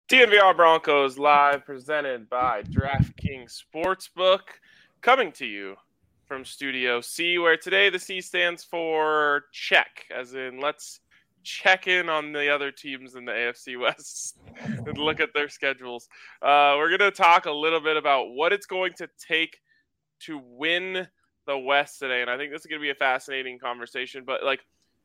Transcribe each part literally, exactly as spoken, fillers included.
D N V R Broncos live, presented by DraftKings Sportsbook, coming to you from Studio C, where today the C stands for check, as in let's check in on the other teams in the A F C West and look at their schedules. Uh, we're going to talk a little bit about what it's going to take to win the West today, and I think this is going to be a fascinating conversation, but like,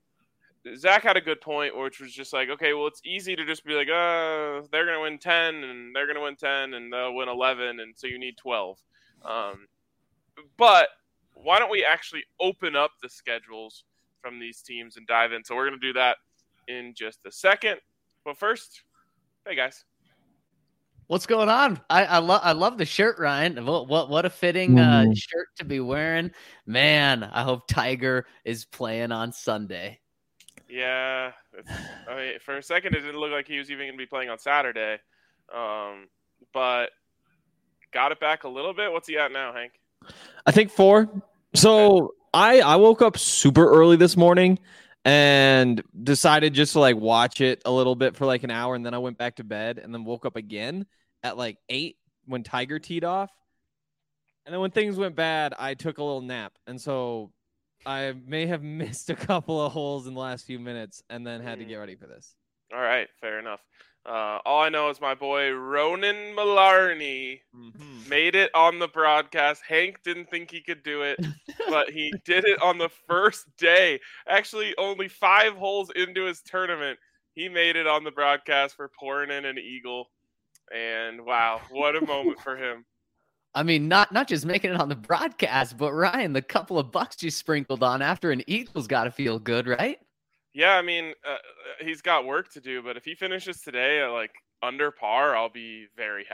Zach had a good point, which was just like, okay, well, it's easy to just be like, uh, they're going to win ten, and they're going to win ten, and they'll win eleven, and so you need twelve. Um, but why don't we actually open up the schedules from these teams and dive in? So we're going to do that in just a second. But first, hey, guys. What's going on? I I love I love the shirt, Ryan. What what what a fitting uh, shirt to be wearing, man. I hope Tiger is playing on Sunday. Yeah, it's, I mean, for a second it didn't look like he was even going to be playing on Saturday, um, but got it back a little bit. What's he at now, Hank? I think four. So I I woke up super early this morning and decided just to like watch it a little bit for like an hour, and then I went back to bed and then woke up again at like eight when Tiger teed off, and then when things went bad, I took a little nap, and so I may have missed a couple of holes in the last few minutes and then had to get ready for this. All right, fair enough. Uh, all I know is my boy Ronan Malarney mm-hmm. made it on the broadcast. Hank didn't think he could do it, but he did it on the first day. Actually, only five holes into his tournament, he made it on the broadcast for pouring in an eagle. And wow, what a moment for him. I mean, not not just making it on the broadcast, but Ryan, the couple of bucks you sprinkled on after an Eagles got to feel good, right? Yeah, I mean, uh, he's got work to do, but if he finishes today at like under par, I'll be very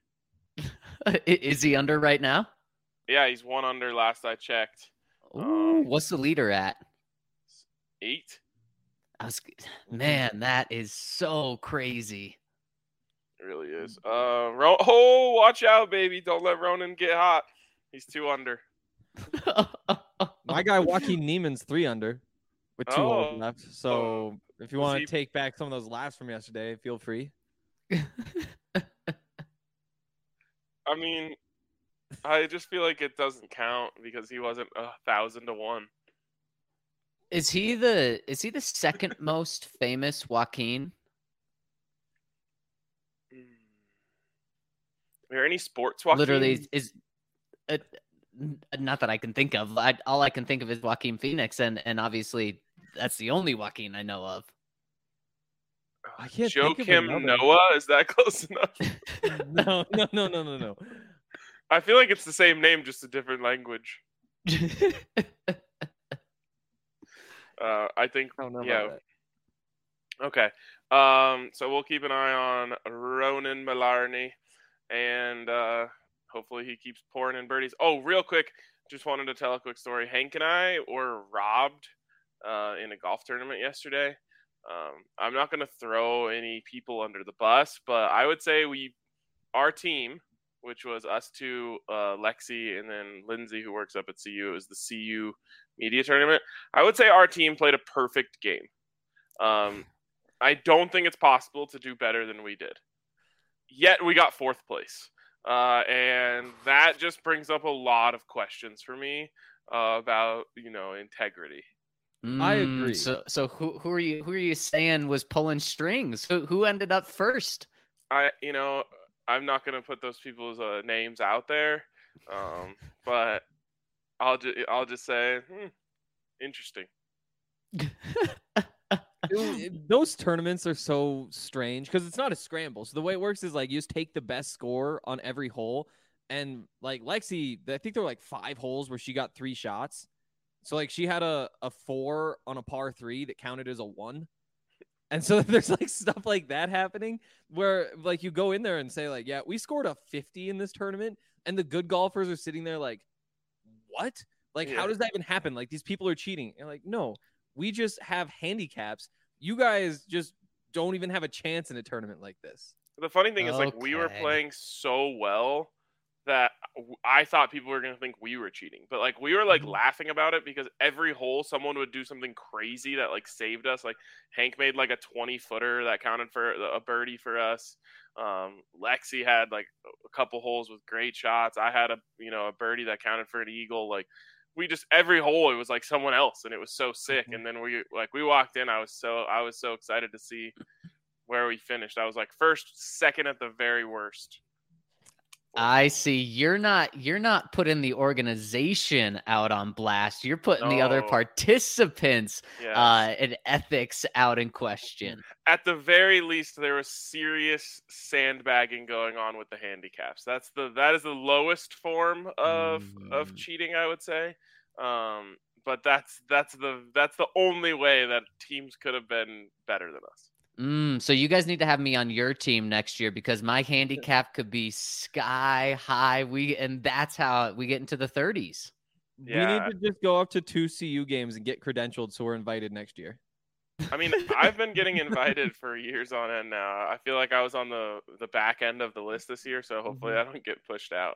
happy. Is he under right now? Yeah, he's one under last I checked. Ooh, um, what's the leader at? Eight. I was, man, that is so crazy. It really is. Uh, Ro- oh, watch out, baby. Don't let Ronan get hot. He's two under. My guy Joaquin Neiman's three under with two oh. holes left. So oh. if you want to he... take back some of those laughs from yesterday, feel free. I mean, I just feel like it doesn't count because he wasn't a thousand to one. Is he the is he the second most famous Joaquin? Are there any sports Joaquin? Literally is uh, not that I can think of. I, all I can think of is Joaquin Phoenix, and and obviously that's the only Joaquin I know of. I can't Joe think of Kim another. Noah, is that close enough? no, no, no, no, no, no. I feel like it's the same name, just a different language. uh, I think. I don't know yeah. about that. Okay. Um. So we'll keep an eye on Ronan Malarney. And uh, hopefully he keeps pouring in birdies. Oh, real quick, just wanted to tell a quick story. Hank and I were robbed uh, in a golf tournament yesterday. Um, I'm not going to throw any people under the bus, but I would say we, our team, which was us two, uh, Lexi, and then Lindsay, who works up at C U, it was the C U media tournament. I would say our team played a perfect game. Um, I don't think it's possible to do better than we did. Yet we got fourth place. Uh, and that just brings up a lot of questions for me uh, about, you know, integrity. Mm, I agree. So so who who are you who are you saying was pulling strings? Who who ended up first? I you know, I'm not going to put those people's uh, names out there. Um, but I'll just I'll just say hmm, interesting. It, those tournaments are so strange because it's not a scramble. So the way it works is like you just take the best score on every hole, and like Lexi, I think there were like five holes where she got three shots. So like she had a, a four on a par three that counted as a one. And so there's like stuff like that happening where like you go in there and say like, yeah, we scored a fifty in this tournament, and the good golfers are sitting there like, what? Like, yeah. How does that even happen? Like, these people are cheating. And like, no. We just have handicaps. You guys just don't even have a chance in a tournament like this. The funny thing is, okay. like, we were playing so well that I thought people were going to think we were cheating, but like we were like Mhm. laughing about it because every hole someone would do something crazy that like saved us. Like Hank made like a twenty footer that counted for a birdie for us. Um, Lexi had like a couple holes with great shots. I had a, you know, a birdie that counted for an eagle. Like we just, every hole, it was like someone else and it was so sick. Mhm. And then we like, we walked in, I was so, I was so excited to see where we finished. I was like first, second at the very worst. I see. You're not you're not putting the organization out on blast. You're putting the other No. participants Yes. uh and ethics out in question. At the very least, there was serious sandbagging going on with the handicaps. That's the that is the lowest form of of Mm. cheating, I would say. Um, but that's that's the that's the only way that teams could have been better than us. Mm, so you guys need to have me on your team next year because my handicap could be sky high. We and that's how we get into the thirties. We Yeah. need to just go up to two C U games and get credentialed so we're invited next year. I mean, I've been getting invited for years on end now. I feel like I was on the the back end of the list this year, so hopefully I don't get pushed out.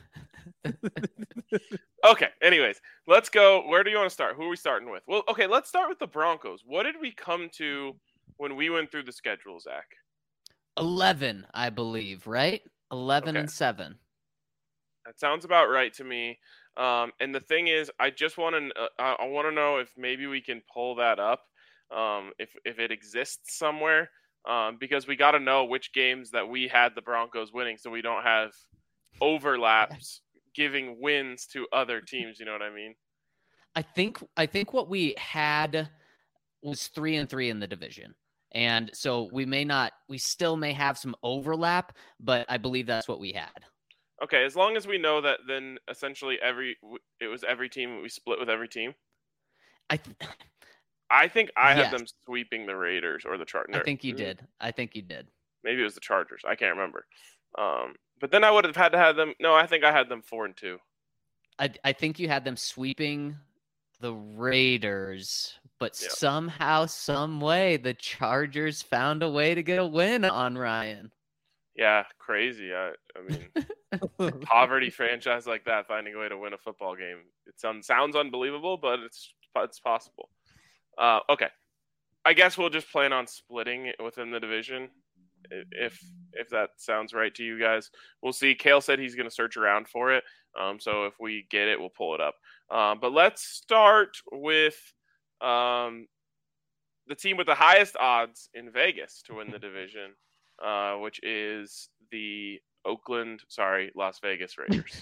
Okay, anyways, let's go. Where do you want to start? Who are we starting with? Well, okay, let's start with the Broncos. What did we come to when we went through the schedule, Zach? eleven, I believe, right? eleven Okay. and seven. That sounds about right to me. Um, and the thing is, I just want to uh, I, I want to know if maybe we can pull that up, um, if if it exists somewhere, um, because we got to know which games that we had the Broncos winning, so we don't have overlaps giving wins to other teams. You know what I mean? I think I think what we had was three and three in the division. And so we may not, we still may have some overlap, but I believe that's what we had. Okay, as long as we know that, then essentially every it was every team we split with every team. I th- I think I Yes. had them sweeping the Raiders or the Chargers. I think you did. I think you did. Maybe it was the Chargers. I can't remember. Um, but then I would have had to have them. No, I think I had them four and two. I I think you had them sweeping the Raiders, but Yeah. somehow, some way, the Chargers found a way to get a win on Ryan. Yeah, crazy. I, I mean, poverty franchise like that finding a way to win a football game. It sounds sounds unbelievable, but it's it's possible. Uh, okay, I guess we'll just plan on splitting it within the division, if if that sounds right to you guys. We'll see. Kale said he's going to search around for it, um, so if we get it, we'll pull it up. Um, but let's start with um, the team with the highest odds in Vegas to win the division, uh, which is the Oakland, sorry, Las Vegas Raiders.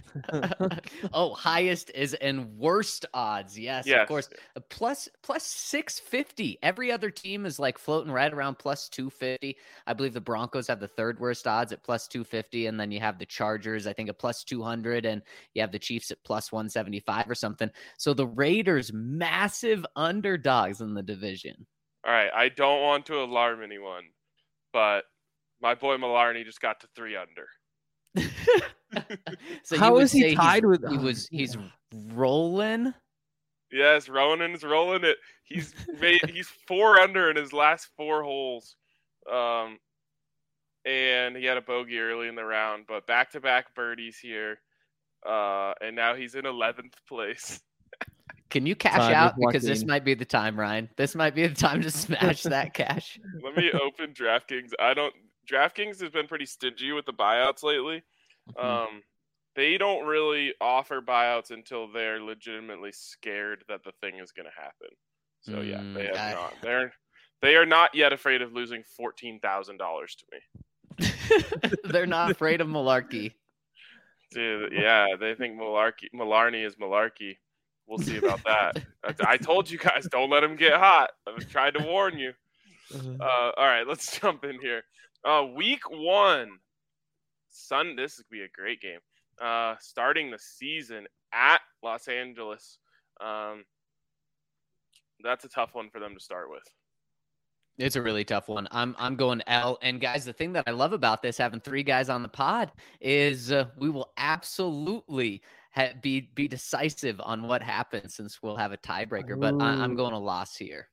Oh, highest is and worst odds. Yes, Yes. of course. Uh, Plus plus six fifty. Every other team is like floating right around plus two fifty. I believe the Broncos have the third worst odds at plus two fifty, and then you have the Chargers, I think, at plus two hundred, and you have the Chiefs at plus one seventy-five or something. So the Raiders, massive underdogs in the division. All right, I don't want to alarm anyone, but my boy Malarney just got to three under. So How you would is he say he's- tied with- He oh, was he's yeah. rolling. Yes, Ronan's rolling it. He's made he's four under in his last four holes. Um and he had a bogey early in the round, but back-to-back birdies here. Uh and now he's in eleventh place. Can you cash Time is out? Because this walking. might be the time, Ryan. This might be the time to smash that cash. Let me open DraftKings. I don't DraftKings has been pretty stingy with the buyouts lately. Um they don't really offer buyouts until they're legitimately scared that the thing is going to happen. So yeah, Mm, they have I- not. They're they are not yet afraid of losing fourteen thousand dollars to me. They're not afraid of malarkey. Dude, yeah, they think Malarkey, Malarney is malarkey. We'll see about that. I, I told you guys, don't let him get hot. I was trying to warn you. Uh, all right, let's jump in here. Uh, week one, Sun. This would be a great game. Uh, starting the season at Los Angeles. Um, that's a tough one for them to start with. It's a really tough one. I'm I'm going L. And guys, the thing that I love about this, having three guys on the pod, is uh, we will absolutely ha- be be decisive on what happens, since we'll have a tiebreaker. But I, I'm Ooh. going a loss here.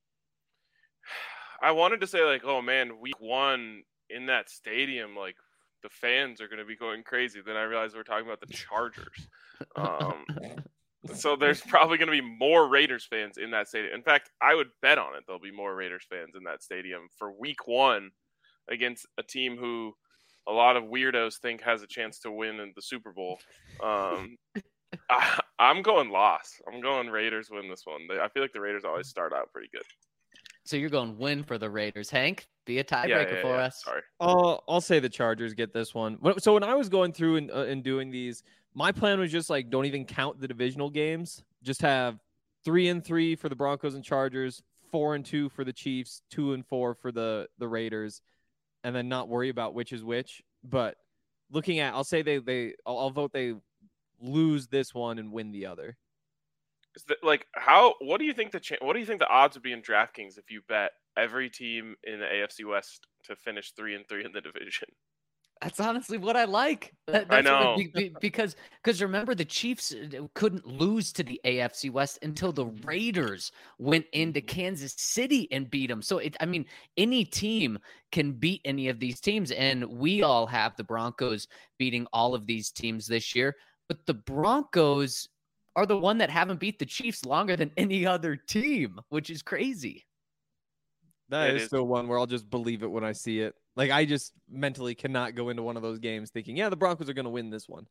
I wanted to say like, oh man, week one in that stadium, like the fans are going to be going crazy. Then I realized we're talking about the Chargers. Um, so there's probably going to be more Raiders fans in that stadium. In fact, I would bet on it there'll be more Raiders fans in that stadium for week one against a team who a lot of weirdos think has a chance to win in the Super Bowl. Um, I, I'm going loss. I'm going Raiders win this one. They, I feel like the Raiders always start out pretty good. So you're going win for the Raiders. Hank, be a tiebreaker yeah, yeah, for yeah. us. Sorry. Uh, I'll say the Chargers get this one. So when I was going through and, uh, and doing these, my plan was just like, don't even count the divisional games. Just have three and three for the Broncos and Chargers, four and two for the Chiefs, two and four for the, the Raiders, and then not worry about which is which. But looking at, I'll say they, they, I'll, I'll vote they lose this one and win the other. Is that, like, how, what do you think the, cha- what do you think the odds would be in DraftKings if you bet every team in the A F C West to finish three and three in the division? That's honestly what I like. That, I that's know. What, be, because because remember the Chiefs couldn't lose to the A F C West until the Raiders went into Kansas City and beat them. So it, I mean, any team can beat any of these teams, and we all have the Broncos beating all of these teams this year. But the Broncos are the one that haven't beat the Chiefs longer than any other team, which is crazy. That It is, is still one where I'll just believe it when I see it. Like, I just mentally cannot go into one of those games thinking, yeah, the Broncos are going to win this one.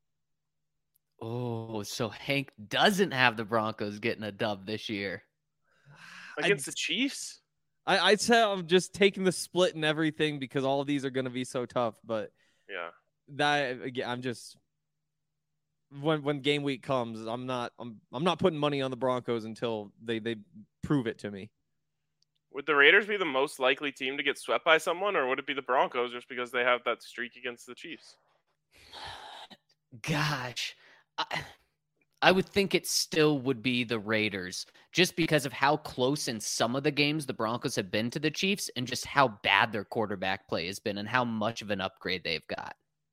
Oh, so Hank doesn't have the Broncos getting a dub this year. Against I'd, the Chiefs? I, I'd say I'm just taking the split and everything because all of these are going to be so tough. But Yeah. that again, I'm just when when game week comes, I'm not I'm I'm not putting money on the Broncos until they they prove it to me. Would the Raiders be the most likely team to get swept by someone, or would it be the Broncos just because they have that streak against the Chiefs? Gosh, I, I would think it still would be the Raiders just because of how close in some of the games the Broncos have been to the Chiefs and just how bad their quarterback play has been and how much of an upgrade they've got.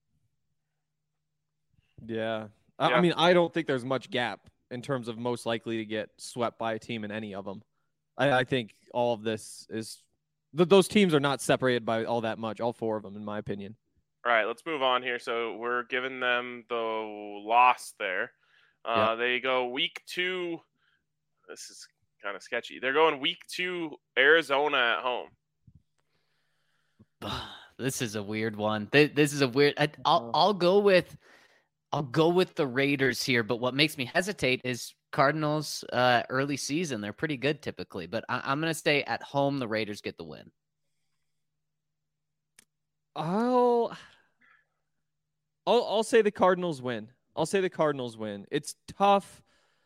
Yeah. I, Yeah. I mean, I don't think there's much gap in terms of most likely to get swept by a team in any of them. I, I think all of this is th- those teams are not separated by all that much. All four of them, in my opinion. All right, let's move on here. So we're giving them the loss there. Uh, Yeah. They go week two. This is kind of sketchy. They're going week two, Arizona at home. This is a weird one. This is a weird. I, I'll I'll go with I'll go with the Raiders here. But what makes me hesitate is Cardinals uh, early season. They're pretty good typically, but I, I'm going to stay at home. The Raiders get the win. I'll, I'll I'll say the Cardinals win. I'll say the Cardinals win. It's tough.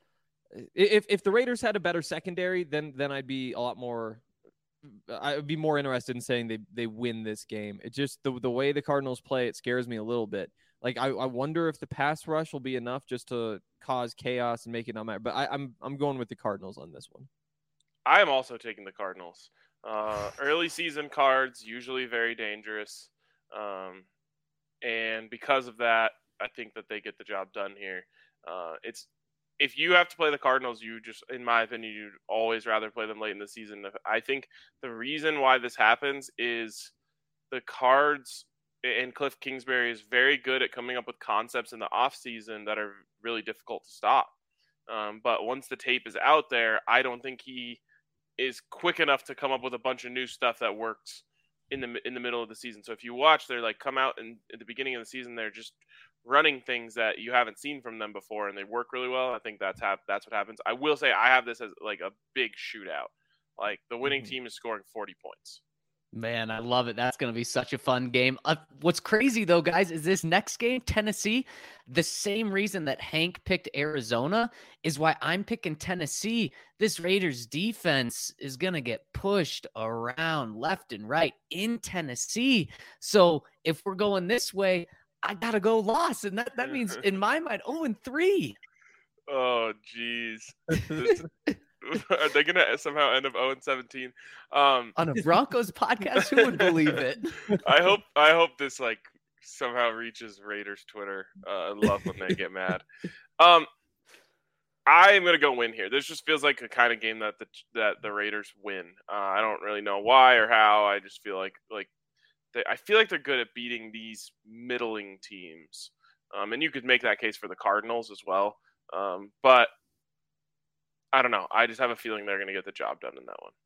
If if the Raiders had a better secondary, then then I'd be a lot more. I would be more interested in saying they they win this game. It just the the way the Cardinals play, it scares me a little bit. Like I, I wonder if the pass rush will be enough just to cause chaos and make it not matter. But I, I'm I'm going with the Cardinals on this one. I am also taking the Cardinals. Uh, early season cards usually very dangerous, um, and because of that, I think that they get the job done here. Uh, it's if you have to play the Cardinals, you just, in my opinion, you'd always rather play them late in the season. I think the reason why this happens is the Cards and Cliff Kingsbury is very good at coming up with concepts in the offseason that are really difficult to stop. Um, but once the tape is out there, I don't think he is quick enough to come up with a bunch of new stuff that works in the in the middle of the season. So if you watch, they're like come out and at the beginning of the season, they're just running things that you haven't seen from them before, and they work really well. I think that's ha- that's what happens. I will say I have this as like a big shootout. Like the winning Mhm. team is scoring forty points. Man, I love it. That's going to be such a fun game. Uh, what's crazy, though, guys, is this next game, Tennessee, the same reason that Hank picked Arizona is why I'm picking Tennessee. This Raiders defense is going to get pushed around left and right in Tennessee. So if we're going this way, I got to go loss. And that, that means, in my mind, oh and three. Oh, jeez. This- Are they going to somehow end up oh and seventeen? Um, On a Broncos podcast, who would believe it? I hope I hope this like somehow reaches Raiders Twitter. Uh, I love when they get mad. Um, I am gonna go win here. This just feels like a kind of game that the that the Raiders win. Uh, I don't really know why or how. I just feel like like they, I feel like they're good at beating these middling teams. Um, and you could make that case for the Cardinals as well. Um, but I don't know. I just have a feeling they're going to get the job done in that one.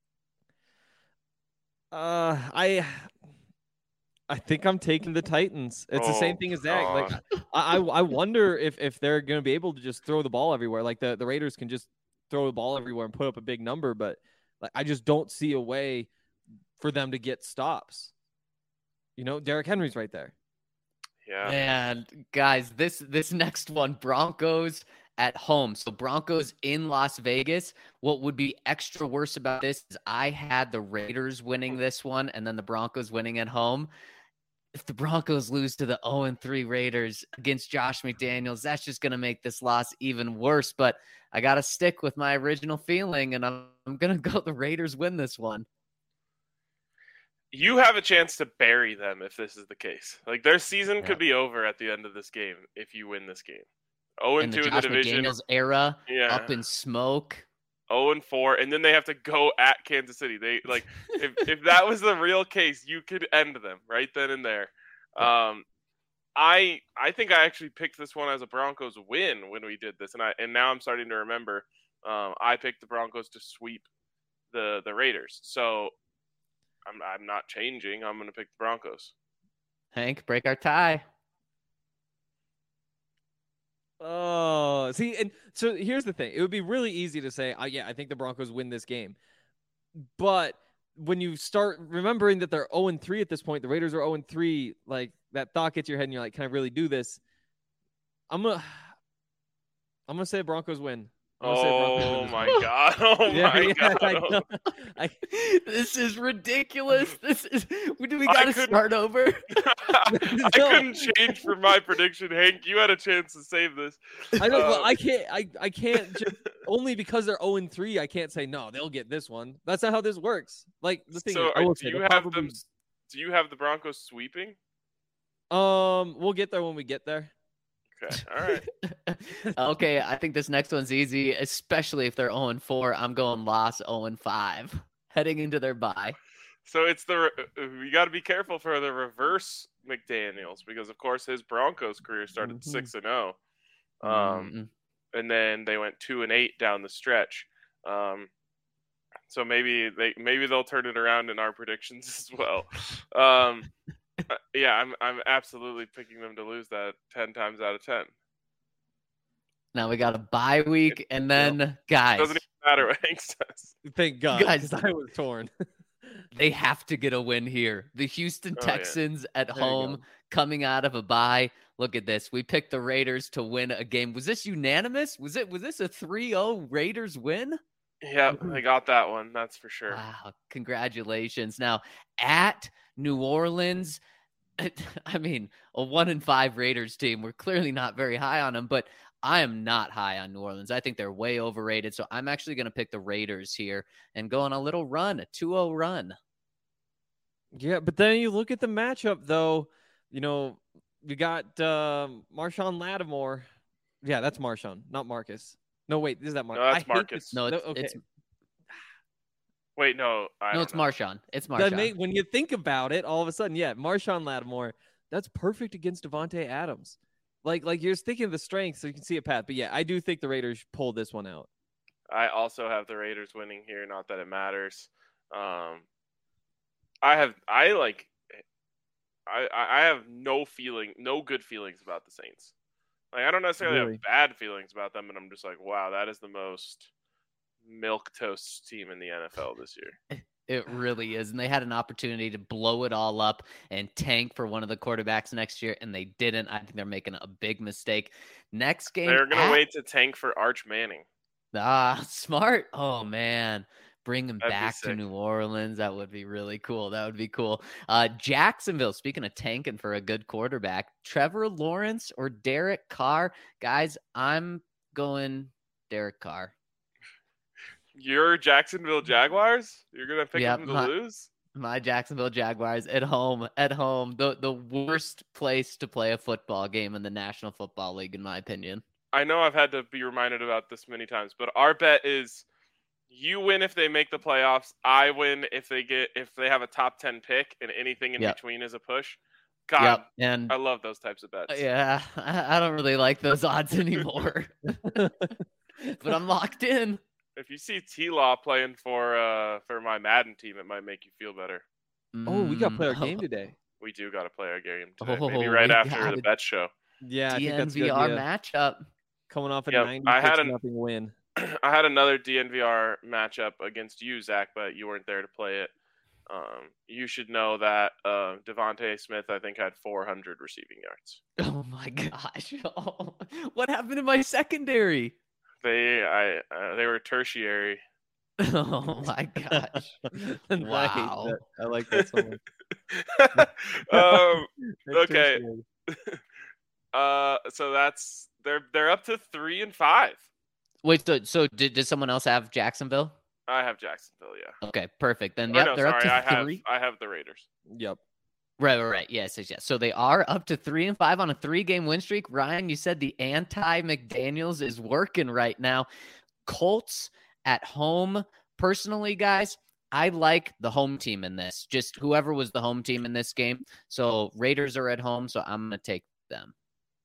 Uh, I I think I'm taking the Titans. It's oh, the same thing as Zach. Like I, I wonder if if they're going to be able to just throw the ball everywhere. Like the, the Raiders can just throw the ball everywhere and put up a big number, but like I just don't see a way for them to get stops. You know, Derrick Henry's right there. Yeah. And guys, this this next one, Broncos at home. So Broncos in Las Vegas. What would be extra worse about this is I had the Raiders winning this one and then the Broncos winning at home. If the Broncos lose to the oh and three Raiders against Josh McDaniels, that's just going to make this loss even worse. But I got to stick with my original feeling, and I'm, I'm going to go the Raiders win this one. You have a chance to bury them if this is the case. Like, their season Yeah. could be over at the end of this game if you win this game. oh and two in in the the Josh division. McDaniels era, Yeah. up in smoke. oh and four, and then they have to go at Kansas City. They like if if that was the real case, you could end them right then and there. Um, I I think I actually picked this one as a Broncos win when we did this, and I and now I'm starting to remember. Um, I picked the Broncos to sweep the the Raiders, so I'm I'm not changing. I'm going to pick the Broncos. Hank, break our tie. Oh, see, and so here's the thing. It would be really easy to say, oh, yeah, I think the Broncos win this game. But when you start remembering that they're oh and three at this point, the Raiders are oh and three, like that thought gets your head and you're like, can I really do this? I'm going to I'm going to say Broncos win. Oh my god! Oh yeah, my yeah, god! I know. I, This is ridiculous. This is. Do we I got to couldn't- start over? I couldn't change for my prediction, Hank. You had a chance to save this. I know, well, Uh, I can't. I, I can't just only because they're oh and three. I can't say no. They'll get this one. That's not how this works. Like the thing. So, is, I are, will do say, you they'll have probably- them? Do you have the Broncos sweeping? Um, we'll get there when we get there. Okay, all right. Okay, I think this next one's easy, especially if they're oh and four. I'm going Loss oh and five, heading into their bye. So it's the you got to be careful for the reverse McDaniels because of course his Broncos career started Mhm. six and zero, um, Mm, and then they went two and eight down the stretch. Um, so maybe they maybe they'll turn it around in our predictions as well. Um, uh, yeah, I'm I'm absolutely picking them to lose that ten times out of ten. now we got a bye week, and then guys, Doesn't even matter what Hank says. Thank God, Guys- because I was torn. they have to get a win here. The Houston Oh, yeah. Texans at There you home, go. coming out of a bye. Look at this. We picked the Raiders to win a game. Was this unanimous? Was it? Was this a three oh Raiders win? Yeah, they got that one. That's for sure. Wow, congratulations. Now, at New Orleans, I mean, a one and five Raiders team. We're clearly not very high on them, but I am not high on New Orleans. I think they're way overrated. So I'm actually going to pick the Raiders here and go on a little run, a two oh run. Yeah, but then you look at the matchup, though. You know, you got um, Marshawn Lattimore. Yeah, that's Marshawn, not Marcus. No, wait, is that Marcus? No, that's Marcus. No, it's, okay. it's Wait, no, I no, don't it's know. Marshawn. It's That Marshawn. make, when you think about it, all of a sudden, yeah, Marshawn Lattimore, that's perfect against Devontae Adams. Like, like you're thinking of the strength, so you can see a path. But yeah, I do think the Raiders pulled this one out. I also have the Raiders winning here. Not that it matters. Um, I have I like I I have no feeling, no good feelings about the Saints. Like I don't necessarily Really? have bad feelings about them, but I'm just like, wow, that is the most milk toast team in the N F L this year. It really is. And they had an opportunity to blow it all up and tank for one of the quarterbacks next year, and they didn't. I think they're making a big mistake. Next game. They're gonna at- wait to tank for Arch Manning. Ah, smart. Oh, man. Bring him That'd be back to sick. New Orleans. That would be really cool. That would be cool. Uh, Jacksonville, speaking of tanking for a good quarterback, Trevor Lawrence or Derek Carr? Guys, I'm going Derek Carr. Your Jacksonville Jaguars? You're gonna pick Yeah, them to my- lose? My Jacksonville Jaguars at home, at home, the the worst place to play a football game in the National Football League, in my opinion. I know I've had to be reminded about this many times, but our bet is You win if they make the playoffs. I win if they get if they have a top ten pick, and anything in Yep. between is a push. God, Yep. And I love those types of bets. yeah, I, I don't really like those odds anymore. But I'm locked in. If you see T-Law playing for uh for my Madden team, it might make you feel better. Oh, we got to play our Mm, game today. We do got to play our game today. Oh, Maybe right we after got the it. bet show. Yeah, I think that's a good D N V R idea. matchup. Coming off a Yep, I had ninety-six an- nothing win. I had another D N V R matchup against you, Zach, but you weren't there to play it. Um, you should know that uh, Devontae Smith, I think, had four hundred receiving yards. Oh my gosh! Oh, what happened to my secondary? They, I, uh, they were tertiary. Oh my gosh! I hate Wow. that. I like that so much. um, That's okay. tertiary. uh, so that's they're they're up to three and five. Wait, so so did, did someone else have Jacksonville? I have Jacksonville, yeah. Okay, perfect. Then Or yep, no, they're sorry, I up to have three. I have the Raiders. Yep. Right, right, right. Yes, yes, yes. So they are up to three and five on a three-game win streak. Ryan, you said the anti-McDaniels is working right now. Colts at home. Personally, guys, I like the home team in this. Just whoever was the home team in this game. So Raiders are at home, so I'm gonna take them.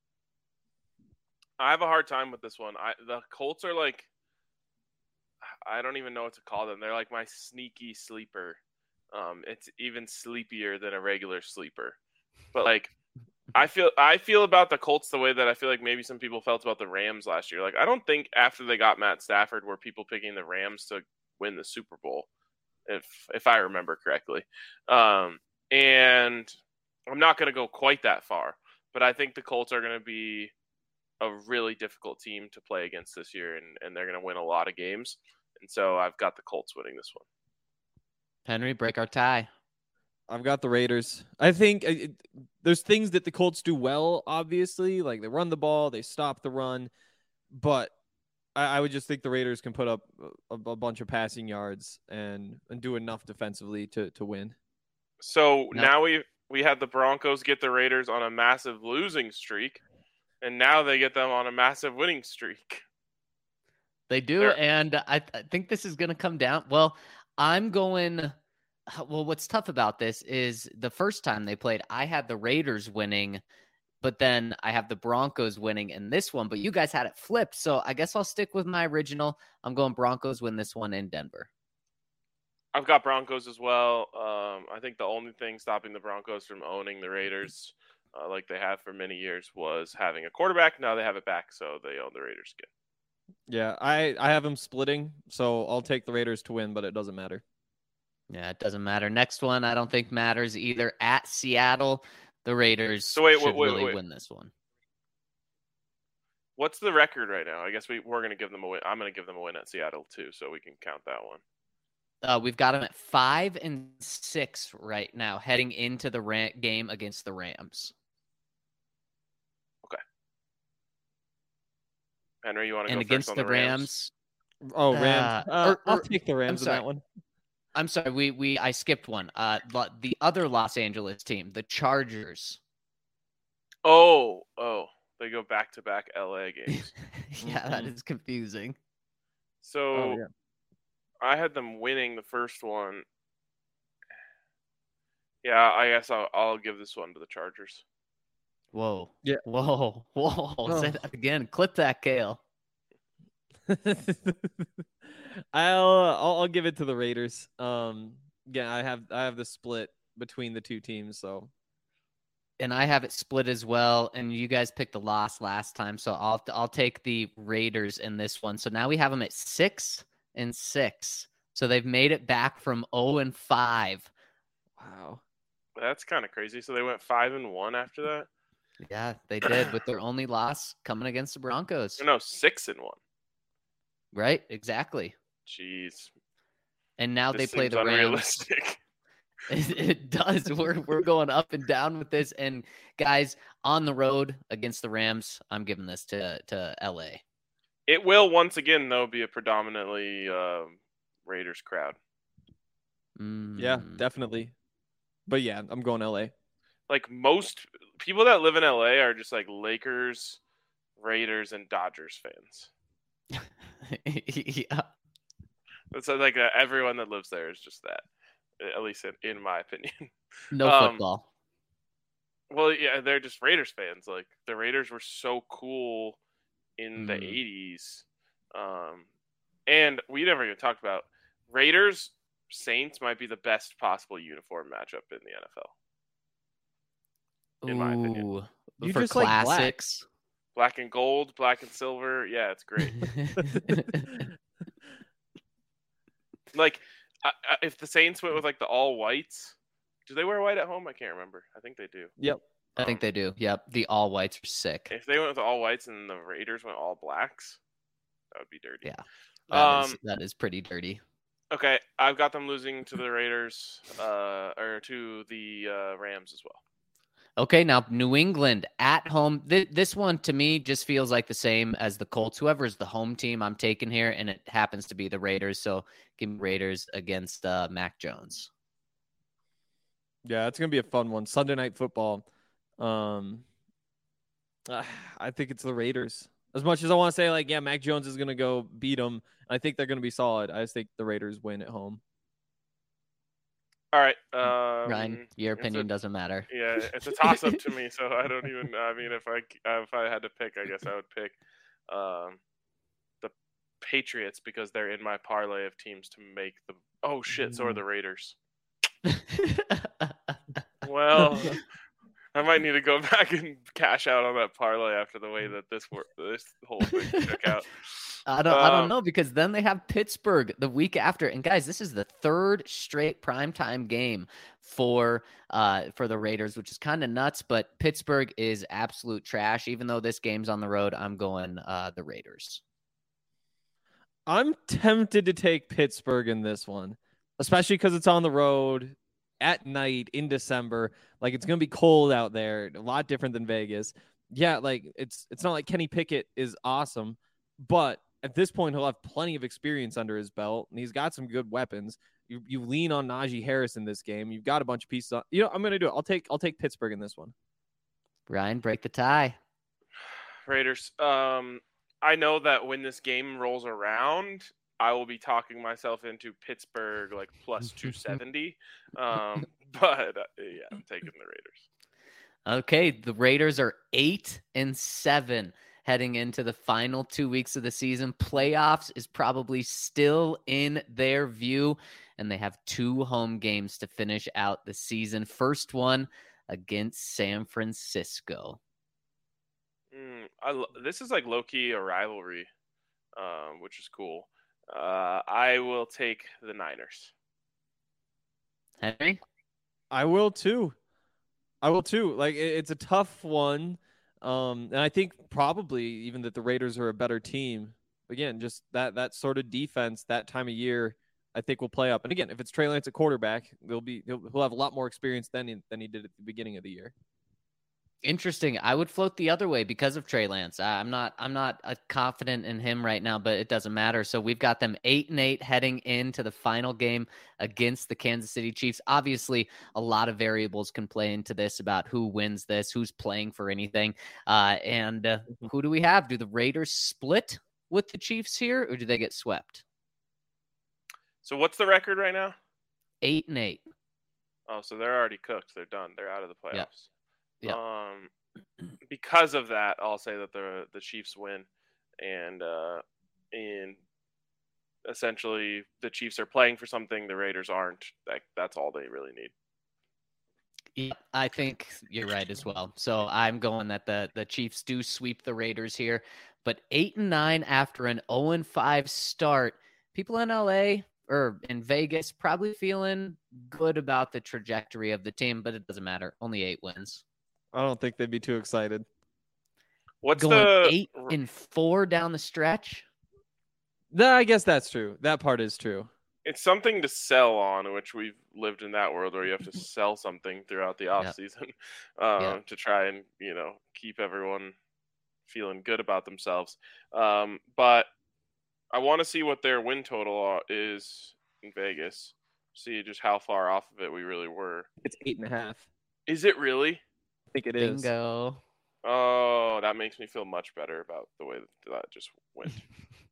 I have a hard time with this one. I the Colts are like, I don't even know what to call them. They're like my sneaky sleeper. Um, it's even sleepier than a regular sleeper. But like, I feel I feel about the Colts the way that I feel like maybe some people felt about the Rams last year. Like, I don't think after they got Matt Stafford were people picking the Rams to win the Super Bowl, if if I remember correctly. Um, and I'm not going to go quite that far, but I think the Colts are going to be a really difficult team to play against this year, and, and they're going to win a lot of games. And so I've got the Colts winning this one. Henry, break our tie. I've got the Raiders. I think uh, it, there's things that the Colts do well, obviously. Like they run the ball, they stop the run. But I, I would just think the Raiders can put up a, a bunch of passing yards and, and do enough defensively to, to win. So No. now we we had the Broncos get the Raiders on a massive losing streak, and now they get them on a massive winning streak. They do, They're- and I, I think this is going to come down. Well, I'm going. Well, what's tough about this is the first time they played, I had the Raiders winning, but then I have the Broncos winning in this one. But you guys had it flipped, so I guess I'll stick with my original. I'm going Broncos win this one in Denver. I've got Broncos as well. Um, I think the only thing stopping the Broncos from owning the Raiders, uh, like they have for many years, was having a quarterback. Now they have it back, so they own the Raiders again. Yeah, I, I have them splitting, so I'll take the Raiders to win, but it doesn't matter. Yeah, it doesn't matter. Next one, I don't think matters either. At Seattle, the Raiders So wait, should wait, wait, really wait. win this one. What's the record right now? I guess we, we're going to give them a win. I'm going to give them a win at Seattle, too, so we can count that one. Uh, we've got them at five and six right now, heading into the Ram- game against the Rams. Henry, you want to And go against first the on the Rams? Rams, Oh, Rams. Uh, Uh, or- I'll or- take the Rams in sorry. that one. I'm sorry, we we I skipped one. Uh, lo- the other Los Angeles team, the Chargers. Oh, oh, they go back-to-back L A games. Yeah, that Mhm. is confusing. So Oh, yeah. I had them winning the first one. Yeah, I guess I'll, I'll give this one to the Chargers. Whoa. Yeah. Whoa. Whoa. Oh. Say that again. Clip that, Kale. I'll, I'll I'll give it to the Raiders. Um, yeah, I have I have the split between the two teams, so And I have it split as well. And you guys picked the loss last time, so I'll I'll take the Raiders in this one. So now we have them at six and six. So they've made it back from zero and five. wow. That's kind of crazy. So they went five and one after that. Yeah, they did with their only loss coming against the Broncos. Or no, six and one. Right? Exactly. Jeez, And now this they play seems the Rams. unrealistic. It, it does. We're we're going up and down with this. And guys, on the road against the Rams, I'm giving this to to L A. It will once again though be a predominantly um, Raiders crowd. Yeah, Mm. definitely. But yeah, I'm going L A. Like most people that live in L A are just like Lakers, Raiders, and Dodgers fans. Yeah. It's like uh, everyone that lives there is just that, at least in, in my opinion. No um, football. Well, yeah, they're just Raiders fans. Like the Raiders were so cool in the Mm. eighties, um, and we never even talked about Raiders Saints might be the best possible uniform matchup in the N F L. In my opinion. Ooh, You for just like black. classics. Black and gold, black and silver. Yeah, it's great. Like, uh, if the Saints went with like the all whites, do they wear white at home? I can't remember. I think they do. Yep. I think they do. Yep. The all whites are sick. If they went with all whites and the Raiders went all blacks, that would be dirty. Yeah. That, um, is, that is pretty dirty. Okay, I've got them losing to the Raiders, uh, or to the uh, Rams as well. Okay, now New England at home. Th- this one to me just feels like the same as the Colts. Whoever is the home team I'm taking here, and it happens to be the Raiders. So give me Raiders against uh, Mac Jones. Yeah, it's gonna be a fun one. Sunday Night Football. Um, uh, I think it's the Raiders. As much as I want to say, like, yeah, Mac Jones is gonna go beat them. I think they're gonna be solid. I just think the Raiders win at home. All right, um, Ryan, your opinion a, doesn't matter. Yeah, it's a toss-up to me, so I don't even. I mean, if I if I had to pick, I guess I would pick um, the Patriots because they're in my parlay of teams to make the. Oh shit! So are the Raiders. Well, I might need to go back and cash out on that parlay after the way that this work, this whole thing shook out. I don't, um, I don't know because then they have Pittsburgh the week after, and guys, this is the third straight primetime game for uh for the Raiders, which is kind of nuts. But Pittsburgh is absolute trash. Even though this game's on the road, I'm going uh the Raiders. I'm tempted to take Pittsburgh in this one, especially because it's on the road at night in December. Like, it's going to be cold out there, a lot different than Vegas. Yeah, like, it's it's not like Kenny Pickett is awesome, but at this point, he'll have plenty of experience under his belt, and he's got some good weapons. You you lean on Najee Harris in this game. You've got a bunch of pieces on. You know, I'm going to do it. I'll take I'll take Pittsburgh in this one. Ryan, break the tie. Raiders. Um, I know that when this game rolls around, I will be talking myself into Pittsburgh like plus two seventy. Um, but uh, yeah, I'm taking the Raiders. Okay, the Raiders are eight and seven heading into the final two weeks of the season. Playoffs is probably still in their view, and they have two home games to finish out the season. First one against San Francisco. Mm, I, this is like low-key a rivalry, um, which is cool. Uh, I will take the Niners. Henry? I will too. I will too. Like, it, it's a tough one. Um, and I think probably even that the Raiders are a better team. Again, just that that sort of defense that time of year, I think will play up. And again, if it's Trey Lance at quarterback, they'll be he'll, he'll have a lot more experience than he, than he did at the beginning of the year. Interesting. I would float the other way because of Trey Lance. I'm not I'm not uh, confident in him right now, but it doesn't matter. So we've got them eight and eight heading into the final game against the Kansas City Chiefs. Obviously, a lot of variables can play into this about who wins this, who's playing for anything. Uh, and uh, who do we have? Do the Raiders split with the Chiefs here, or do they get swept? So what's the record right now? Eight and eight. Oh, so they're already cooked. They're done. They're out of the playoffs. Yep. Yep. Um, because of that, I'll say that the the Chiefs win, and uh, in essentially the Chiefs are playing for something the Raiders aren't. Like that's all they really need. Yeah, I think you're right as well. So I'm going that the the Chiefs do sweep the Raiders here, but eight and nine after an zero and five start. People in L A or in Vegas probably feeling good about the trajectory of the team, but it doesn't matter. Only eight wins. I don't think they'd be too excited. What's going the eight and four down the stretch? No, I guess that's true. That part is true. It's something to sell on, which we've lived in that world where you have to sell something throughout the off Yep. season um, Yep. to try and, you know, keep everyone feeling good about themselves. Um, but I want to see what their win total is in Vegas. See just how far off of it we really were. It's eight and a half. Is it really? I think it is. Bingo. Oh, that makes me feel much better about the way that, that just went.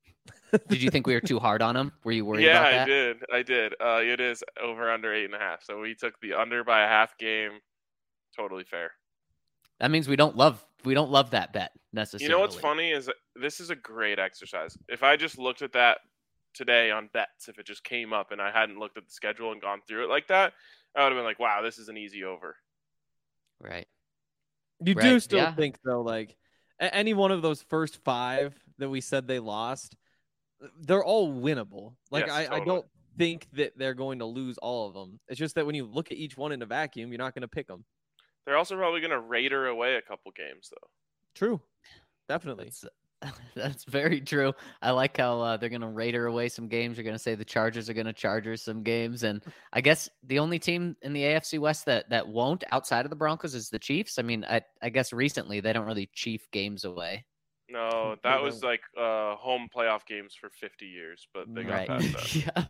Did you think we were too hard on him? Were you worried yeah, about that? I did. I did. Uh, it is over under eight and a half. So we took the under by a half game. Totally fair. That means we don't love we don't love that bet necessarily. You know what's funny is that this is a great exercise. If I just looked at that today on bets, if it just came up and I hadn't looked at the schedule and gone through it like that, I would have been like, wow, this is an easy over. Right. You Right, do still yeah. think, though, like a- any one of those first five that we said they lost, they're all winnable. Like, Yes, I, totally. I don't think that they're going to lose all of them. It's just that when you look at each one in a vacuum, you're not going to pick them. They're also probably going to Raider away a couple games, though. True. Definitely. That's, that's very true. I like how uh, they're going to Raider away some games. You're going to say the Chargers are going to Chargers some games. And I guess the only team in the A F C West that, that won't outside of the Broncos is the Chiefs. I mean, I, I guess recently they don't really Chief games away. No, that was like uh, home playoff games for fifty years, but they got Right. past that. Yeah.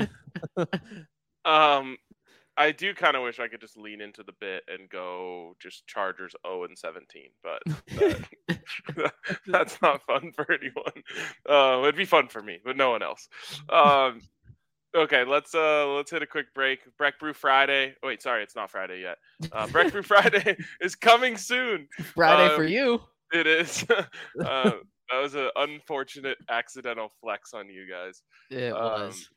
Mhm. Um, I do kind of wish I could just lean into the bit and go just Chargers oh and seventeen, but that, that's not fun for anyone. Uh, it'd be fun for me, but no one else. Um, okay, let's uh let's hit a quick break. Breck Brew Friday. Oh, wait, sorry, it's not Friday yet. Uh, Breck Brew Friday is coming soon. Friday Uh, for you. It is. uh, that was an unfortunate accidental flex on you guys. It um, was.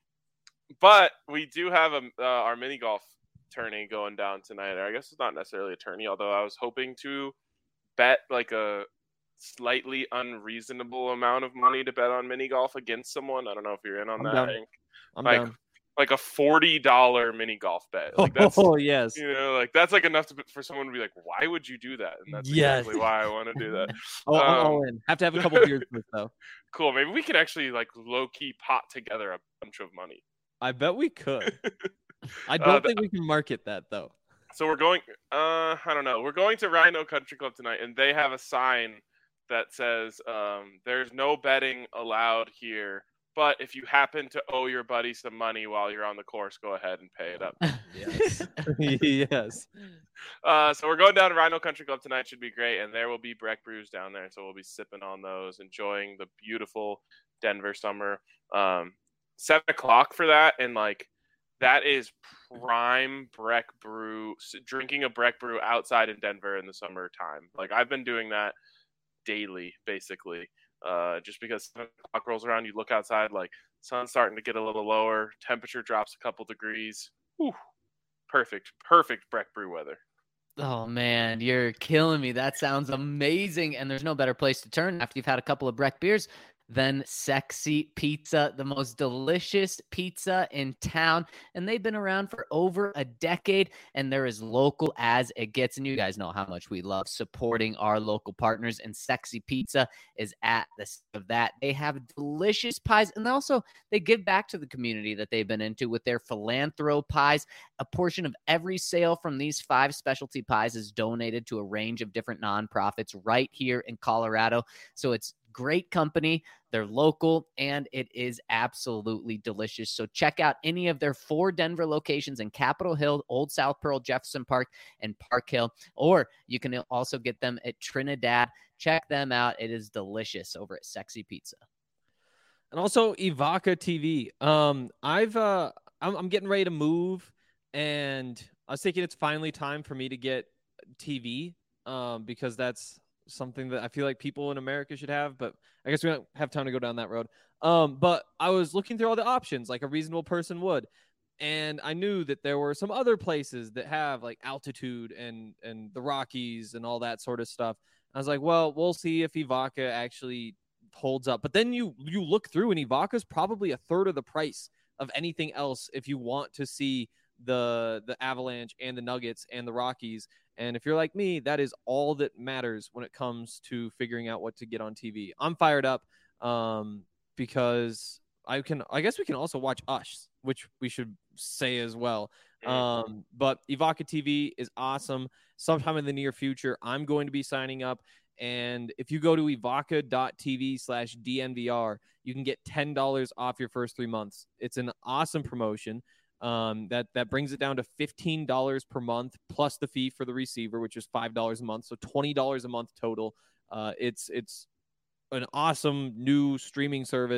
But we do have a, uh, our mini golf tourney going down tonight. Or I guess it's not necessarily a tourney, although I was hoping to bet like a slightly unreasonable amount of money to bet on mini golf against someone. I don't know if you're in on I'm that. down. Hank. I'm like, down. like a forty dollars mini golf bet. Like that's, Oh, yes. you know, like that's like enough to, for someone to be like, why would you do that? And that's Yes. exactly why I want to do that. Oh, I'm Um, all in. Have to have a couple beers first, though. Cool. Maybe we can actually like low key pot together a bunch of money. I bet we could. I Uh, don't the- think we can market that, though. So we're going, uh, I don't know. We're going to Rhino Country Club tonight, and they have a sign that says, um, there's no betting allowed here, but if you happen to owe your buddy some money while you're on the course, go ahead and pay it up. Yes. Yes. Uh, so we're going down to Rhino Country Club tonight. Should be great, and there will be Breck Brews down there, so we'll be sipping on those, enjoying the beautiful Denver summer. Um, seven o'clock for that, and like that is prime Breck Brew. Drinking a Breck Brew outside in Denver in the summertime. Like I've been doing that daily, basically. Uh, just because seven o'clock rolls around, you look outside, like sun's starting to get a little lower, temperature drops a couple degrees. Whew. Perfect, perfect Breck Brew weather. Oh man, you're killing me. That sounds amazing. And there's no better place to turn after you've had a couple of Breck beers than Sexy Pizza, the most delicious pizza in town. And they've been around for over a decade, and they're as local as it gets. And you guys know how much we love supporting our local partners, and Sexy Pizza is at the center of that. They have delicious pies, and also they give back to the community that they've been into with their Philanthro pies. A portion of every sale from these five specialty pies is donated to a range of different nonprofits right here in Colorado. So it's great company. They're local, and it is absolutely delicious. So check out any of their four Denver locations in Capitol Hill, Old South Pearl, Jefferson Park, and Park Hill. Or you can also get them at Trinidad. Check them out. It is delicious over at Sexy Pizza. And also Evoca T V. Um, I've uh, I'm, I'm getting ready to move, and I was thinking it's finally time for me to get T V. Um, because that's something that I feel like people in America should have, but I guess we don't have time to go down that road. Um, but I was looking through all the options like a reasonable person would, and I knew that there were some other places that have like altitude and and the Rockies and all that sort of stuff. I was like, well, we'll see if Evoca actually holds up. But then you you look through, and Evoca's probably a third of the price of anything else if you want to see the the Avalanche and the Nuggets and the Rockies. And if you're like me, that is all that matters when it comes to figuring out what to get on T V. I'm fired up um, because I can. I guess we can also watch Us, which we should say as well. Um, but Evoca T V is awesome. Sometime in the near future, I'm going to be signing up. And if you go to evoca.tv slash DNVR, you can get ten dollars off your first three months. It's an awesome promotion. Um, that, that brings it down to fifteen dollars per month plus the fee for the receiver, which is five dollars a month. So twenty dollars a month total. Uh, it's, it's an awesome new streaming service,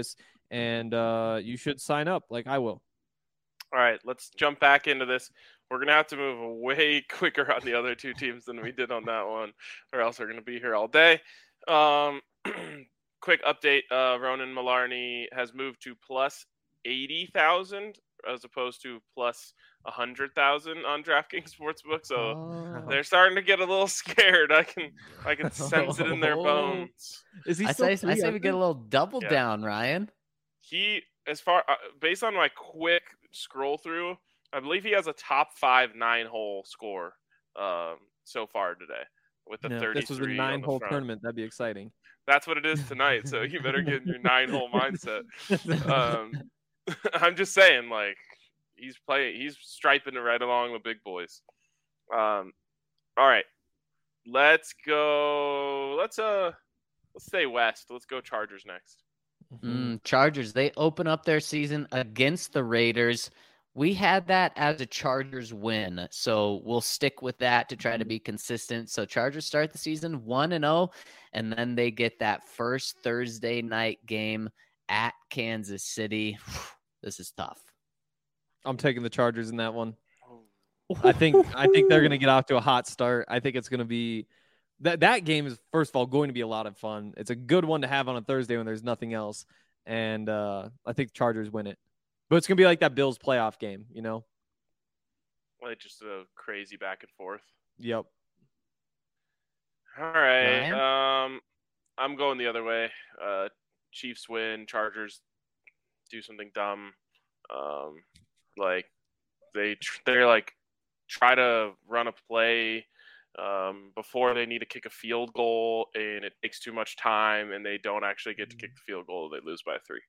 and uh, you should sign up like I will. All right, let's jump back into this. We're going to have to move way quicker on the other two teams than we did on that one, or else we're going to be here all day. Um, quick update, uh, Ronan Malarney has moved to plus eighty thousand as opposed to plus one hundred thousand on DraftKings Sportsbook, so Oh. they're starting to get a little scared. I can I can sense it in their bones. Is he I still say, I say we get a little double Yeah. down, Ryan. He, as far uh, based on my quick scroll through, I believe he has a top five nine hole score um, so far today with the No, thirty-three. this was a on nine the hole front. tournament. That'd be exciting. That's what it is tonight. So you better get in your nine hole mindset. Um, I'm just saying, like he's playing, he's striping it right along the big boys. Um, all right, let's go. Let's uh, let's stay west. Let's go Chargers next. Mm, Chargers, they open up their season against the Raiders. We had that as a Chargers win, so we'll stick with that to try to be consistent. So Chargers start the season one and oh, and then they get that first Thursday night game at Kansas City. This is tough. I'm taking the Chargers in that one. I think I think they're going to get off to a hot start. I think it's going to be that that game is, first of all, going to be a lot of fun. It's a good one to have on a Thursday when there's nothing else, and uh, I think the Chargers win it. But it's going to be like that Bills playoff game, you know? Like just a crazy back and forth. Yep. All right. Ryan? Um, I'm going the other way. Uh, Chiefs win. Chargers do something dumb. Um, like they tr- they're like try to run a play um, before they need to kick a field goal, and it takes too much time, and they don't actually get to kick the field goal. They lose by three.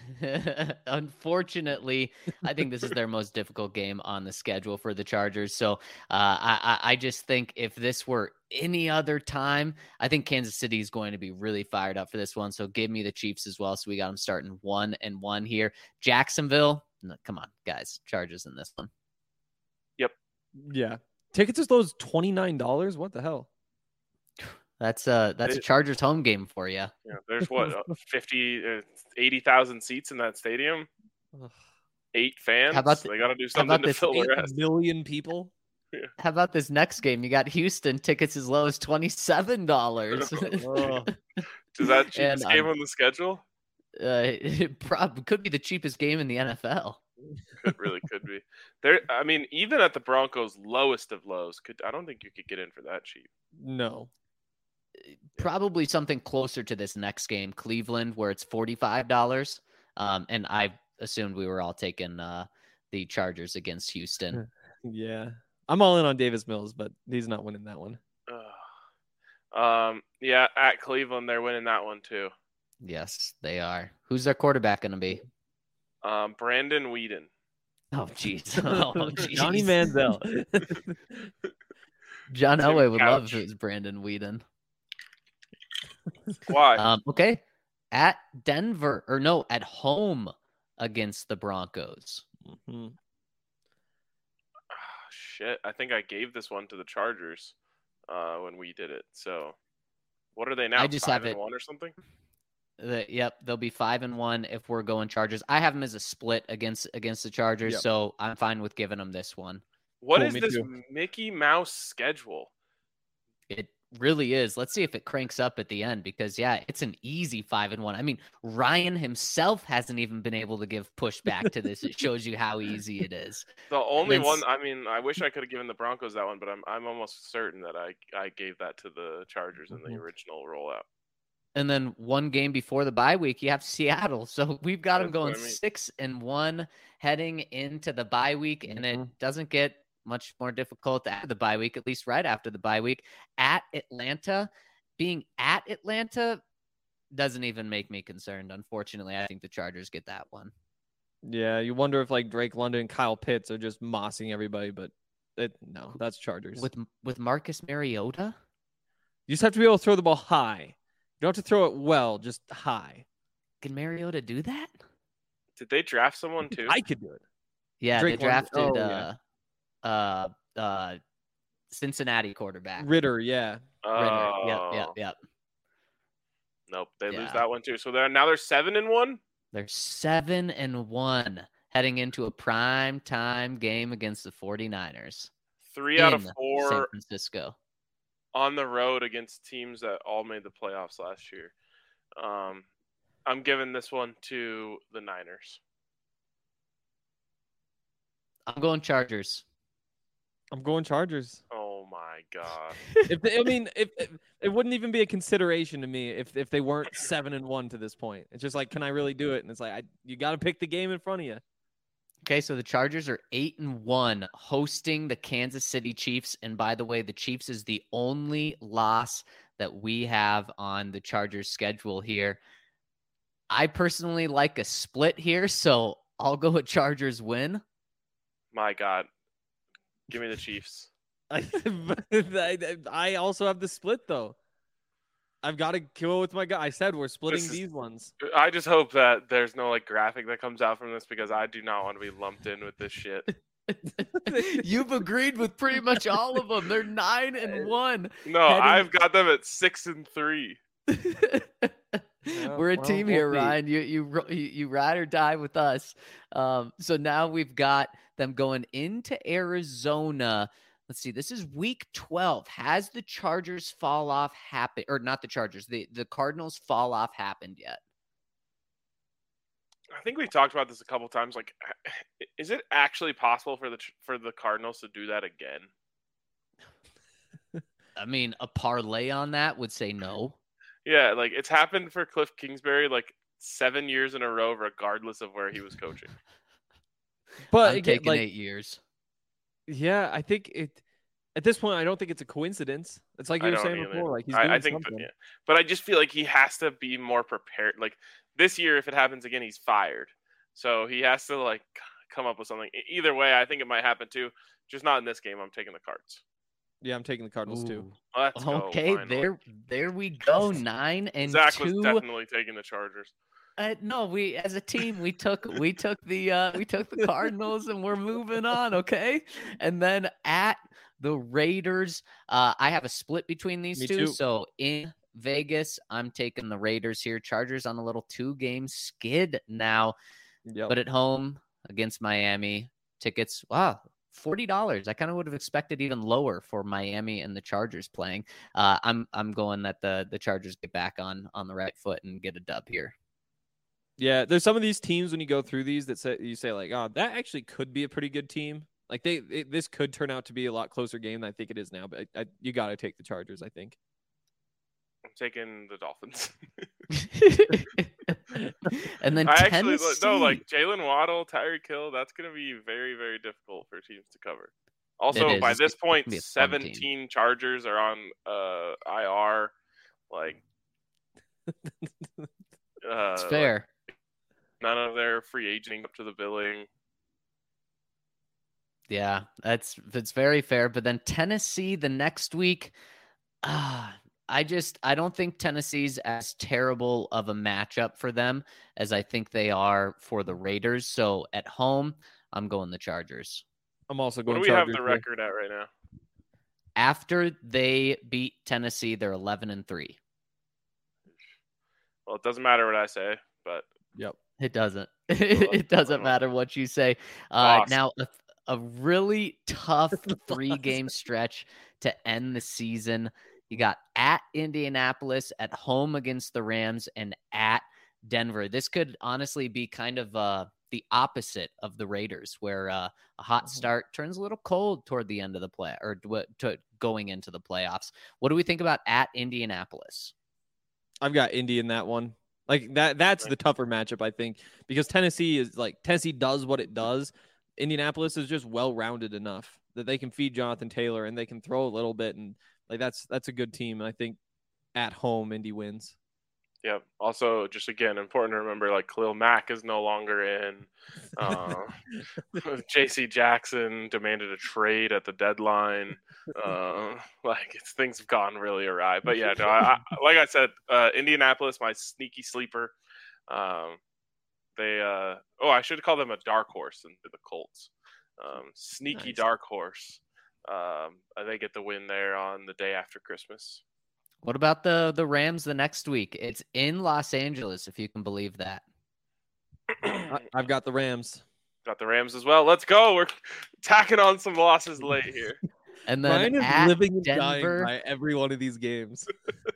Unfortunately, I think this is their most difficult game on the schedule for the Chargers. So uh, I, I just think if this were any other time, I think Kansas City is going to be really fired up for this one. So give me the Chiefs as well. So we got them starting one and one here. Jacksonville, no, come on, guys, Chargers in this one. Yep. Yeah. Tickets as low as twenty-nine dollars? What the hell? That's a that's a Chargers home game for you. Yeah, there's what uh, fifty, uh, eighty thousand seats in that stadium. Eight fans. How about the- they got to do how something about to this fill the Eight rest. million people? How about this next game? You got Houston tickets as low as twenty-seven dollars. Oh. Is that cheapest And, game um, on the schedule? Uh, it prob- could be the cheapest game in the N F L. It really could be. There, I mean, even at the Broncos' lowest of lows, could I don't think you could get in for that cheap. No. Probably something closer to this next game, Cleveland, where it's forty-five dollars. Um, and I assumed we were all taking uh, the Chargers against Houston. Yeah. I'm all in on Davis Mills, but he's not winning that one. Ugh. Um, yeah, at Cleveland, they're winning that one too. Yes, they are. Who's their quarterback going to be? Um, Brandon Whedon. Oh, jeez. Oh, jeez. Johnny Manziel. John Tim Elway would love Couch. if it was Brandon Whedon. Why? Um, okay. At Denver, or no, at home against the Broncos. Mhm. Ah, shit, I think I gave this one to the Chargers uh, when we did it. So, what are they now? I just Five have and it- one or something. The, yep, they'll be five and one if we're going Chargers. I have them as a split against against the Chargers, Yep. so I'm fine with giving them this one. What Cool, is me this too. Mickey Mouse schedule? It really is. Let's see if it cranks up at the end because yeah, it's an easy five and one. I mean, Ryan himself hasn't even been able to give pushback to this. It shows you how easy it is. The only It's- one. I mean, I wish I could have given the Broncos that one, but I'm I'm almost certain that I I gave that to the Chargers in the Mhm. original rollout. And then one game before the bye week, you have Seattle. So we've got them That's what going I mean. six and one heading into the bye week, and it Mhm. doesn't get much more difficult after the bye week, at least right after the bye week. At Atlanta, being at Atlanta doesn't even make me concerned. Unfortunately, I think the Chargers get that one. Yeah, you wonder if like Drake London and Kyle Pitts are just mossing everybody, but it, no, that's Chargers. With with Marcus Mariota, You just have to be able to throw the ball high. You don't have to throw it well, just high. can Mariota do that? Did they draft someone too? I could do it. Yeah, Drake they London- drafted oh, yeah. uh, uh, uh, Cincinnati quarterback. Ritter, yeah. Ritter. Oh, Yep, yep, yep. Nope, they Yeah. lose that one too. So they're now they're seven and one. They're seven and one heading into a prime time game against the 49ers. Three out of in four San Francisco. on the road against teams that all made the playoffs last year. Um, I'm giving this one to the Niners. I'm going Chargers. I'm going Chargers. Oh my god! If they, I mean, if, if it wouldn't even be a consideration to me if if they weren't seven and one to this point. It's just like, can I really do it? And it's like, I you got to pick the game in front of you. Okay, so the Chargers are eight and one hosting the Kansas City Chiefs. And by the way, the Chiefs is the only loss that we have on the Chargers schedule here. I personally like a split here, so I'll go with Chargers win. My God. Give me the Chiefs. I, I, I also have the split, though. I've got to go with my guy. I said we're splitting Is, these ones. I just hope that there's no like graphic that comes out from this because I do not want to be lumped in with this shit. You've agreed with pretty much all of them. They're nine and one. No, heading... I've got them at six and three. Yeah, We're a well, team we'll here, see. Ryan. You you you ride or die with us. Um, so now we've got them going into Arizona. Let's see. This is week twelve. Has the Chargers fall off happen, or not the Chargers? The the Cardinals fall off happened yet? I think we've talked about this a couple times. Like, is it actually possible for the for the Cardinals to do that again? I mean, a parlay on that would say no. Yeah, like it's happened for Cliff Kingsbury like seven years in a row, regardless of where he was coaching. But I'm again, taking like, eight years. Yeah, I think it. At this point, I don't think it's a coincidence. It's like you I were don't saying either. before. Like he's doing I, I think, something. yeah. But I just feel like he has to be more prepared. Like this year, if it happens again, he's fired. So he has to like come up with something. Either way, I think it might happen too. Just not in this game. I'm taking the Cards. Yeah, I'm taking the Cardinals Ooh. too. Let's go, Okay, finally. there, there we go. Nine and Zach two. was definitely taking the Chargers. Uh, no, we as a team we took we took the uh, we took the Cardinals and we're moving on. Okay, and then at the Raiders, uh, I have a split between these Me two. too. So in Vegas, I'm taking the Raiders here. Chargers on a little two game skid now, Yep. but at home against Miami, tickets wow. forty dollars. I kind of would have expected even lower for Miami and the Chargers playing. Uh, I'm I'm going that the the Chargers get back on on the right foot and get a dub here. Yeah, there's some of these teams when you go through these that say you say like, oh, that actually could be a pretty good team. Like they, it, this could turn out to be a lot closer game than I think it is now. But I, I, you got to take the Chargers, I think. I'm taking the Dolphins. And then I Tennessee. actually no, like Jalen Waddle, Tyreek Hill. That's going to be very, very difficult for teams to cover. Also, It is. by It's this gonna point, be a fun seventeen team. Chargers are on uh, I R. Like, uh, It's fair. Like, none of their free agenting up to the billing. Yeah, that's that's very fair. But then Tennessee the next week, ah, I just I don't think Tennessee's as terrible of a matchup for them as I think they are for the Raiders. So at home, I'm going the Chargers. I'm also What going. do we Chargers have the here. record at right now? After they beat Tennessee, they're eleven and three. Well, it doesn't matter what I say, but Yep. It doesn't. It doesn't matter what you say. Uh, Lost. now, a, a really tough three-game stretch to end the season. You got at Indianapolis, at home against the Rams, and at Denver. This could honestly be kind of uh, the opposite of the Raiders, where uh, a hot start turns a little cold toward the end of the play, or to, to going into the playoffs. What do we think about at Indianapolis? I've got Indy in that one. Like that. That's the tougher matchup, I think, because Tennessee is like Tennessee does what it does. Indianapolis is just well-rounded enough that they can feed Jonathan Taylor and they can throw a little bit, and like that's that's a good team. And I think at home, Indy wins. yeah. Also, just again, important to remember, like Khalil Mack is no longer in. Uh, J C Jackson demanded a trade at the deadline. Uh, like it's things have gone really awry. But yeah, no, I, I, like I said, uh, Indianapolis, my sneaky sleeper. Um, they uh, oh, I should call them a dark horse into the Colts. Um, sneaky Nice. dark horse. Um, they get the win there on the day after Christmas. What about the the Rams the next week? It's in Los Angeles, if you can believe that. I, I've got the Rams. Got the Rams as well. Let's go. We're tacking on some losses late here. And then Ryan is at living and Denver, dying by every one of these games.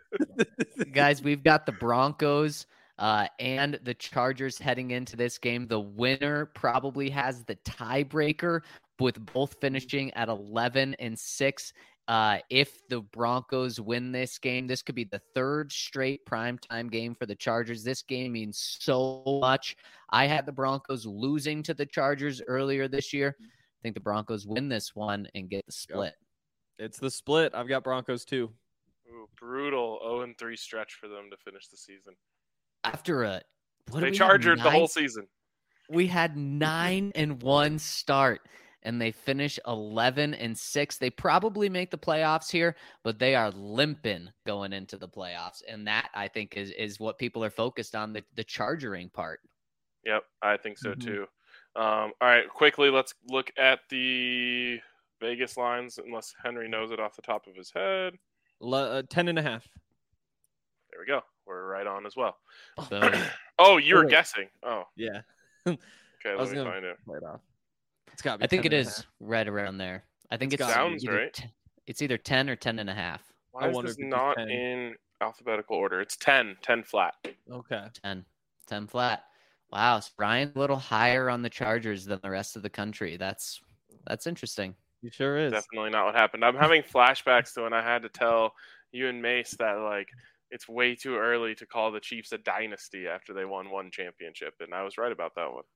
guys, we've got the Broncos uh, and the Chargers heading into this game. The winner probably has the tiebreaker, with both finishing at eleven and six. Uh, if the Broncos win this game, this could be the third straight primetime game for the Chargers. This game means so much. I had the Broncos losing to the Chargers earlier this year. I think the Broncos win this one and get the split. It's the split. I've got Broncos too. Ooh, brutal oh and three stretch for them to finish the season. After a what They we charged have, the nine, whole season. We had nine and one start, and they finish eleven and six. They probably make the playoffs here, but they are limping going into the playoffs, and that I think is is what people are focused on, the the chargering part. Yep, I think so Mhm. too. Um, all right, quickly, let's look at the Vegas lines, unless Henry knows it off the top of his head. Le- uh, ten and a half. There we go. We're right on as well. Boom. Oh, you were Oh, wait. guessing. Oh, Yeah. okay. I Let was me gonna find it. play it off. It's got. I think it is right around there. I think It's it's, gotta be. Sounds either right. t- it's either ten or ten and a half. Why I is wonder this if it's not ten. in alphabetical order? It's ten. ten flat. Okay. ten. ten flat. Wow, so Ryan's a little higher on the Chargers than the rest of the country. That's that's interesting. You sure is. Definitely not what happened. I'm having flashbacks to when I had to tell you and Mace that, like, it's way too early to call the Chiefs a dynasty after they won one championship, and I was right about that one.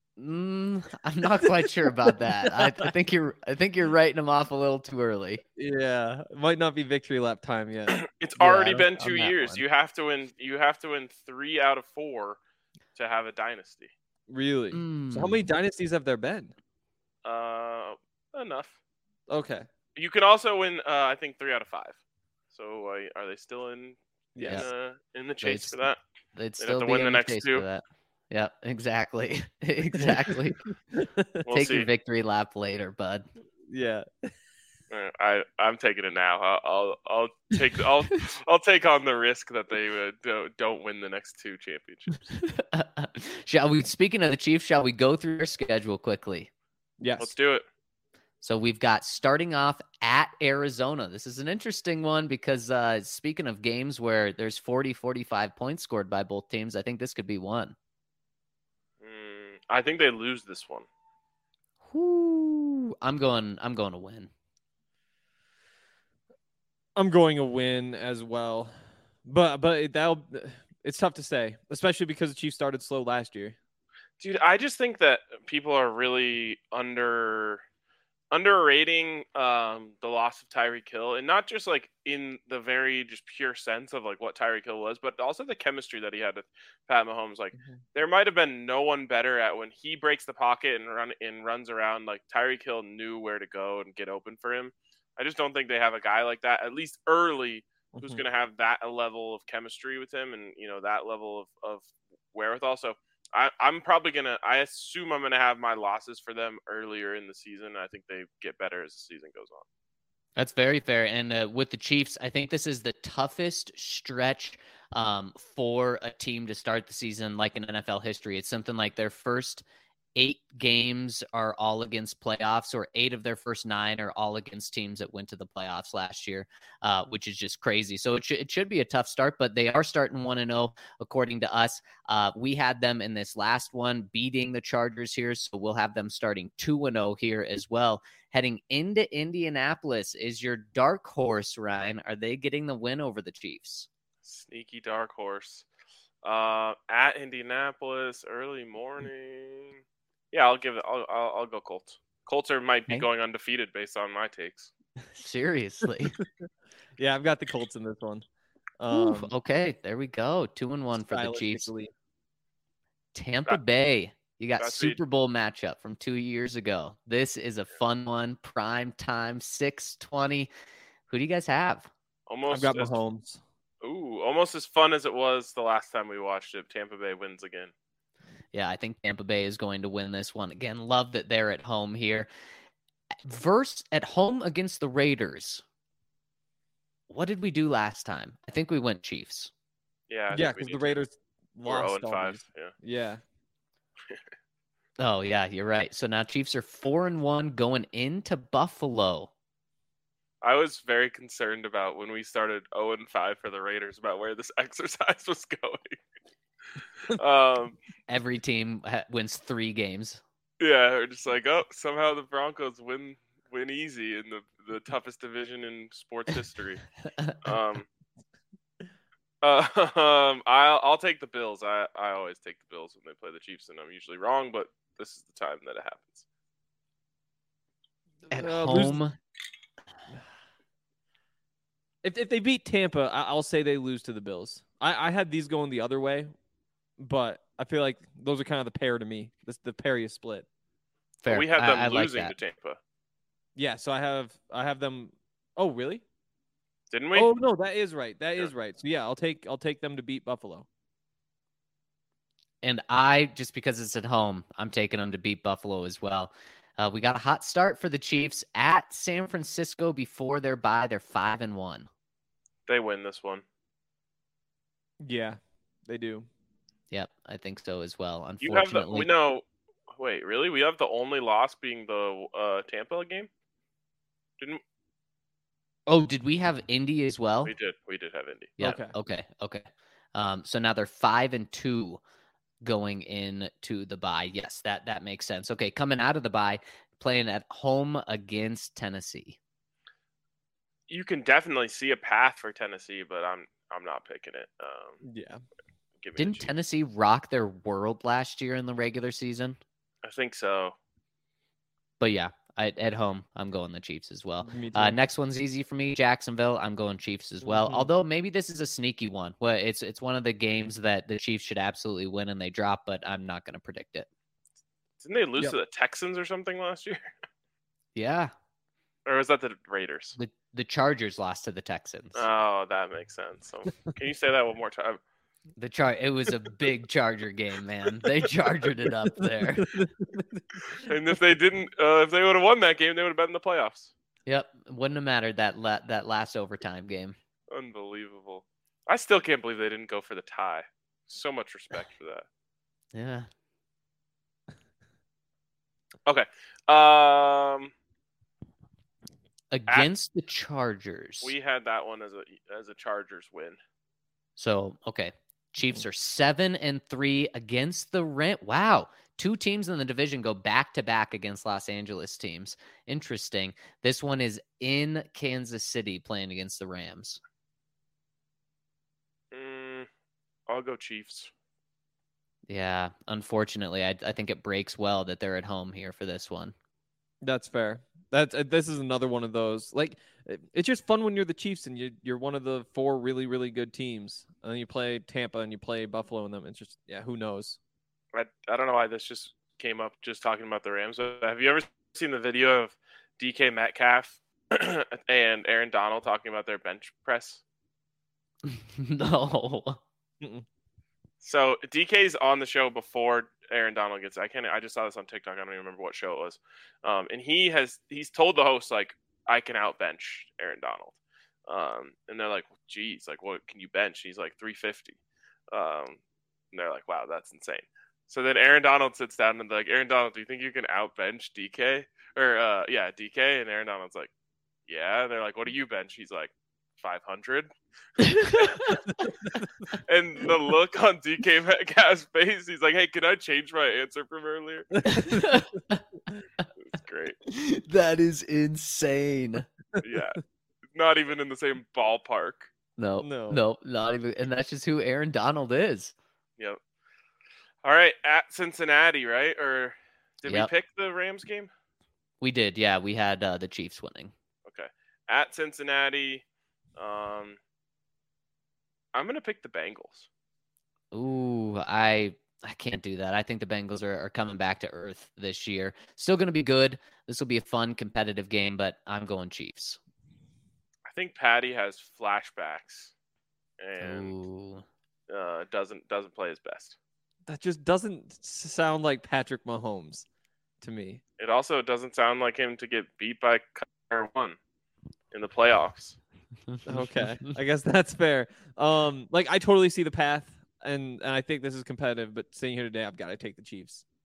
Mm, I'm not quite sure about that. I, I think you're I think you're writing them off a little too early. Yeah. It might not be victory lap time yet. It's Yeah, already on- been on two that years. one. You have to win. You have to win three out of four to have a dynasty. Really? So how Mm. many dynasties have there been? Uh, enough. Okay. You can also win. Uh, I think three out of five. So uh, are they still in? Yeah. In, uh, in the chase They'd for that? They'd have still to be win in the the next chase two. for that. Yeah, exactly. exactly. We'll Take see. your victory lap later, bud. Yeah. Uh, I I'm taking it now. I'll I'll, I'll take I'll I'll take on the risk that they uh, don't, don't win the next two championships. Shall we? Speaking of the Chiefs, shall we go through their schedule quickly? Yes. Let's do it. So we've got starting off at Arizona. This is an interesting one because uh, speaking of games where there's forty, forty-five points scored by both teams, I think this could be one. Mm, I think they lose this one. Whoo. I'm going. I'm going to win. I'm going to win as well. But but that'll it's tough to say, especially because the Chiefs started slow last year. Dude, I just think that people are really under underrating um, the loss of Tyreek Hill, and not just like in the very just pure sense of like what Tyreek Hill was, but also the chemistry that he had with Pat Mahomes. Like Mhm. there might have been no one better at when he breaks the pocket and run and runs around. Like Tyreek Hill knew where to go and get open for him. I just don't think they have a guy like that, at least early, who's Mhm. going to have that level of chemistry with him and, you know, that level of, of wherewithal. So I, I'm probably going to, I assume I'm going to have my losses for them earlier in the season. I think they get better as the season goes on. That's very fair. And uh, with the Chiefs, I think this is the toughest stretch um, for a team to start the season like in N F L history. It's something like their first eight games are all against playoffs, or eight of their first nine are all against teams that went to the playoffs last year, uh, which is just crazy. So it, sh- it should be a tough start, but they are starting one and oh, according to us. Uh, we had them in this last one beating the Chargers here, so we'll have them starting two and oh here as well. Heading into Indianapolis is your dark horse, Ryan. Are they getting the win over the Chiefs? Sneaky dark horse. Uh, at Indianapolis, early morning. Yeah, I'll give it. I'll, I'll, I'll go Colts. Colts are might be Okay. going undefeated based on my takes. Seriously. Yeah, I've got the Colts in this one. Oof, Um, okay, there we go. Two and one for the Chiefs. stylistically. Tampa That- Bay. You got that's what you- Super Bowl matchup from two years ago. This is a fun one. Prime time, six twenty. Who do you guys have? Almost I've got as, Mahomes. ooh, almost as fun as it was the last time we watched it. Tampa Bay wins again. Yeah, I think Tampa Bay is going to win this one again. Love that they're at home here. Verse at home against the Raiders. What did we do last time? I think we went Chiefs. Yeah, I Yeah, think we because need the to- Raiders We're lost oh and all five. these. Yeah. Yeah. Oh yeah, you're right. So now Chiefs are four and one going into Buffalo. I was very concerned about when we started zero and five for the Raiders about where this exercise was going. um, Every team ha- wins three games. yeah, we're just like, oh, somehow the Broncos win win easy in the, the toughest division in sports history. um, uh, um, I'll I'll take the Bills. I, I always take the Bills when they play the Chiefs, and I'm usually wrong, but this is the time that it happens. At Uh, lose- home, If if they beat Tampa, I- I'll say they lose to the Bills. I, I had these going the other way, but I feel like those are kind of the pair to me. This the pair you split. fair. But we had them I, I like losing that. to Tampa, Yeah, so I have I have them. Oh, really? didn't we? Oh no, that is right. That Yeah. is right. So yeah, I'll take I'll take them to beat Buffalo. And I, just because it's at home, I'm taking them to beat Buffalo as well. Uh, we got a hot start for the Chiefs at San Francisco before their bye. They're five and one. They win this one. Yeah, they do. Yep, I think so as well. You have the Unfortunately, we know. Wait, really? We have the only loss being the uh, Tampa game. Didn't oh, did we have Indy as well? we did? We did have Indy. Yeah. Okay. Okay. Okay. Um, so now they're five and two going into the bye. Yes, that that makes sense. Okay, coming out of the bye, playing at home against Tennessee. You can definitely see a path for Tennessee, but I'm I'm not picking it. Um, Yeah. give me the Didn't Chiefs. Tennessee rock their world last year in the regular season? I think so. But yeah, I, at home, I'm going the Chiefs as well. Me too. Uh, next one's easy for me, Jacksonville. I'm going Chiefs as well. Mhm. Although maybe this is a sneaky one. Well, it's it's one of the games that the Chiefs should absolutely win and they drop, but I'm not going to predict it. Didn't they lose Yep. to the Texans or something last year? Yeah, Or was that the Raiders? the the Chargers lost to the Texans. Oh, that makes sense. So, can you say that one more time? The char it was a big Charger game, man. They chargered it up there. And if they didn't, uh, if they would have won that game, they would have been in the playoffs. Yep, wouldn't have mattered that la- that last overtime game. Unbelievable. I still can't believe they didn't go for the tie. So much respect for that. Yeah. Okay. Um, Against the Chargers. we had that one as a as a Chargers win. So, okay. Chiefs are seven and three against the Rams. Wow. Two teams in the division go back to back against Los Angeles teams. Interesting. This one is in Kansas City playing against the Rams. Mm, I'll go Chiefs. Yeah. Unfortunately, I, I think it breaks well that they're at home here for this one. That's fair. That's uh, this is another one of those. Like it- it's just fun when you're the Chiefs and you you're one of the four really really good teams, and then you play Tampa and you play Buffalo and them. It's just yeah, who knows? I, I don't know why this just came up just talking about the Rams. Have you ever seen the video of D K Metcalf and Aaron Donald talking about their bench press? No. So D K's on the show before Aaron Donald gets. I can't. I just saw this on TikTok. I don't even remember what show it was. Um, and he has he's told the host like I can outbench Aaron Donald. Um, and they're like, geez, like what can you bench? He's like three fifty. Um, and they're like, wow, that's insane. So then Aaron Donald sits down and they're like, Aaron Donald, do you think you can outbench D K? Or uh, yeah, D K. And Aaron Donald's like, yeah. And they're like, what do you bench? He's like, five hundred. And the look on D K Metcalf's face, he's like, hey, can I change my answer from earlier? It's great. That is insane. Yeah. Not even in the same ballpark. No, No. no, not even. And that's just who Aaron Donald is. Yep. All right, at Cincinnati, right? Or did Yep. we pick the Rams game? We did, yeah. We had uh, the Chiefs winning. Okay. At Cincinnati, um, I'm going to pick the Bengals. Ooh, I I can't do that. I think the Bengals are, are coming back to earth this year. Still going to be good. This will be a fun, competitive game, but I'm going Chiefs. I think Patty has flashbacks and Ooh. uh, doesn't doesn't play his best. That just doesn't s- sound like Patrick Mahomes to me. It also doesn't sound like him to get beat by Kyler one in the playoffs. Okay, I guess that's fair. Um, like I totally see the path, and and I think this is competitive. But sitting here today, I've got to take the Chiefs.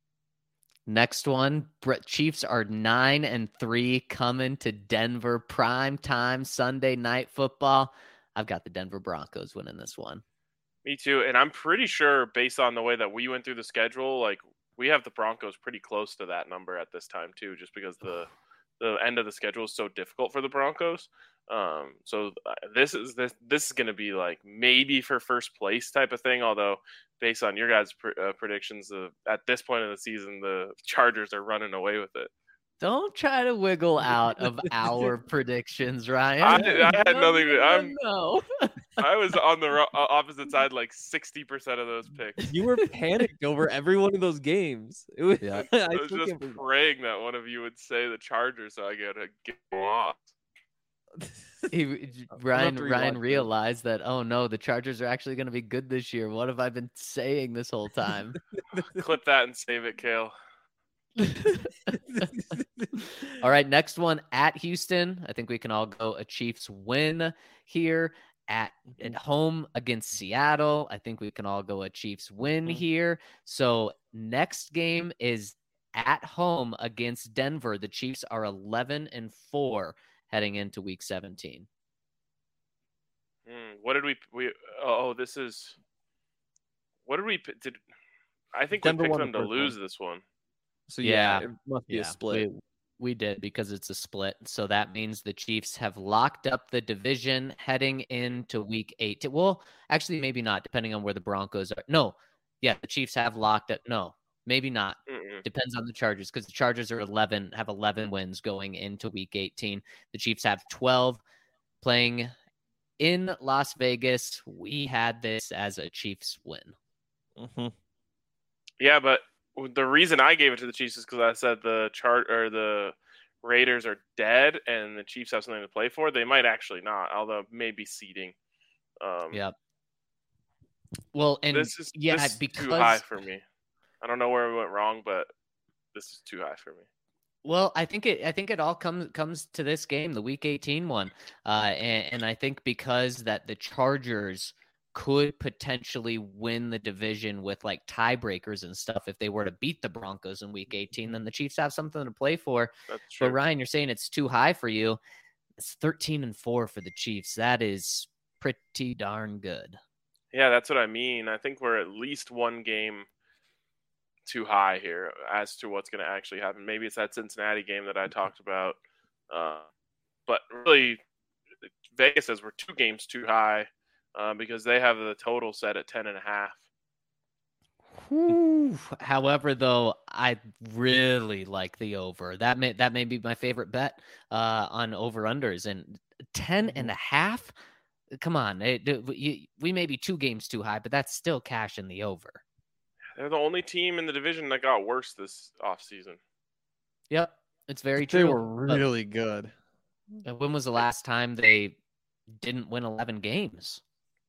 Next one, Chiefs are nine and three coming to Denver, prime time Sunday night football. I've got the Denver Broncos winning this one. Me too, and I'm pretty sure based on the way that we went through the schedule, like we have the Broncos pretty close to that number at this time too, just because the the end of the schedule is so difficult for the Broncos. Um, so this is this this is going to be like maybe for first place type of thing. Although based on your guys' pr- uh, predictions, uh, at this point in the season, the Chargers are running away with it. Don't try to wiggle out of our predictions, Ryan. I, I had no, nothing to. I'm no. I was on the ro- opposite side like sixty percent of those picks. You were panicked over every one of those games. It was, yeah. I, I was just praying that one of you would say the Chargers so I get to get lost. He, Ryan Ryan realized that, oh no, the Chargers are actually going to be good this year. What have I been saying this whole time? Clip that and save it, Kale. All right, next one at Houston. I think we can all go a Chiefs win here. At, at home against Seattle, I think we can all go a Chiefs win here. So next game is at home against Denver. The Chiefs are eleven and four heading into week seventeen. Mm, what did we we oh this is what did we did I think Denver we picked them the to lose one. This one. So yeah, yeah, it must be yeah, a split. We, we did because it's a split. So that means the Chiefs have locked up the division heading into week eight. Well, actually, maybe not, depending on where the Broncos are. No, yeah, the Chiefs have locked it. No, maybe not. Mm-mm. Depends on the Chargers because the Chargers are eleven, have eleven wins going into week eighteen. The Chiefs have twelve playing in Las Vegas. We had this as a Chiefs win. Mm-hmm. Yeah, but the reason I gave it to the Chiefs is because I said the chart or the Raiders are dead and the Chiefs have something to play for. They might actually not, although maybe seeding. Um, yeah. Well, and this is yeah, this is because too high for me. I don't know where we went wrong, but this is too high for me. Well, I think it. I think it all comes comes to this game, the Week eighteen one, uh, and, and I think because that the Chargers could potentially win the division with like tiebreakers and stuff if they were to beat the Broncos in week eighteen, then the Chiefs have something to play for. That's true. But Ryan, you're saying it's too high for you. It's thirteen and four for the Chiefs. That is pretty darn good. Yeah, that's what I mean. I think we're at least one game too high here as to what's going to actually happen. Maybe it's that Cincinnati game that I talked about. Uh, but really, Vegas says we're two games too high. Uh, because they have the total set at ten and a half. Whew. However, though, I really like the over. That may that may be my favorite bet uh, on over unders, and ten and a half. Come on, it, it, we may be two games too high, but that's still cash in the over. They're the only team in the division that got worse this offseason. Yep, it's very they true. They were really but, good. When was the last time they didn't win eleven games?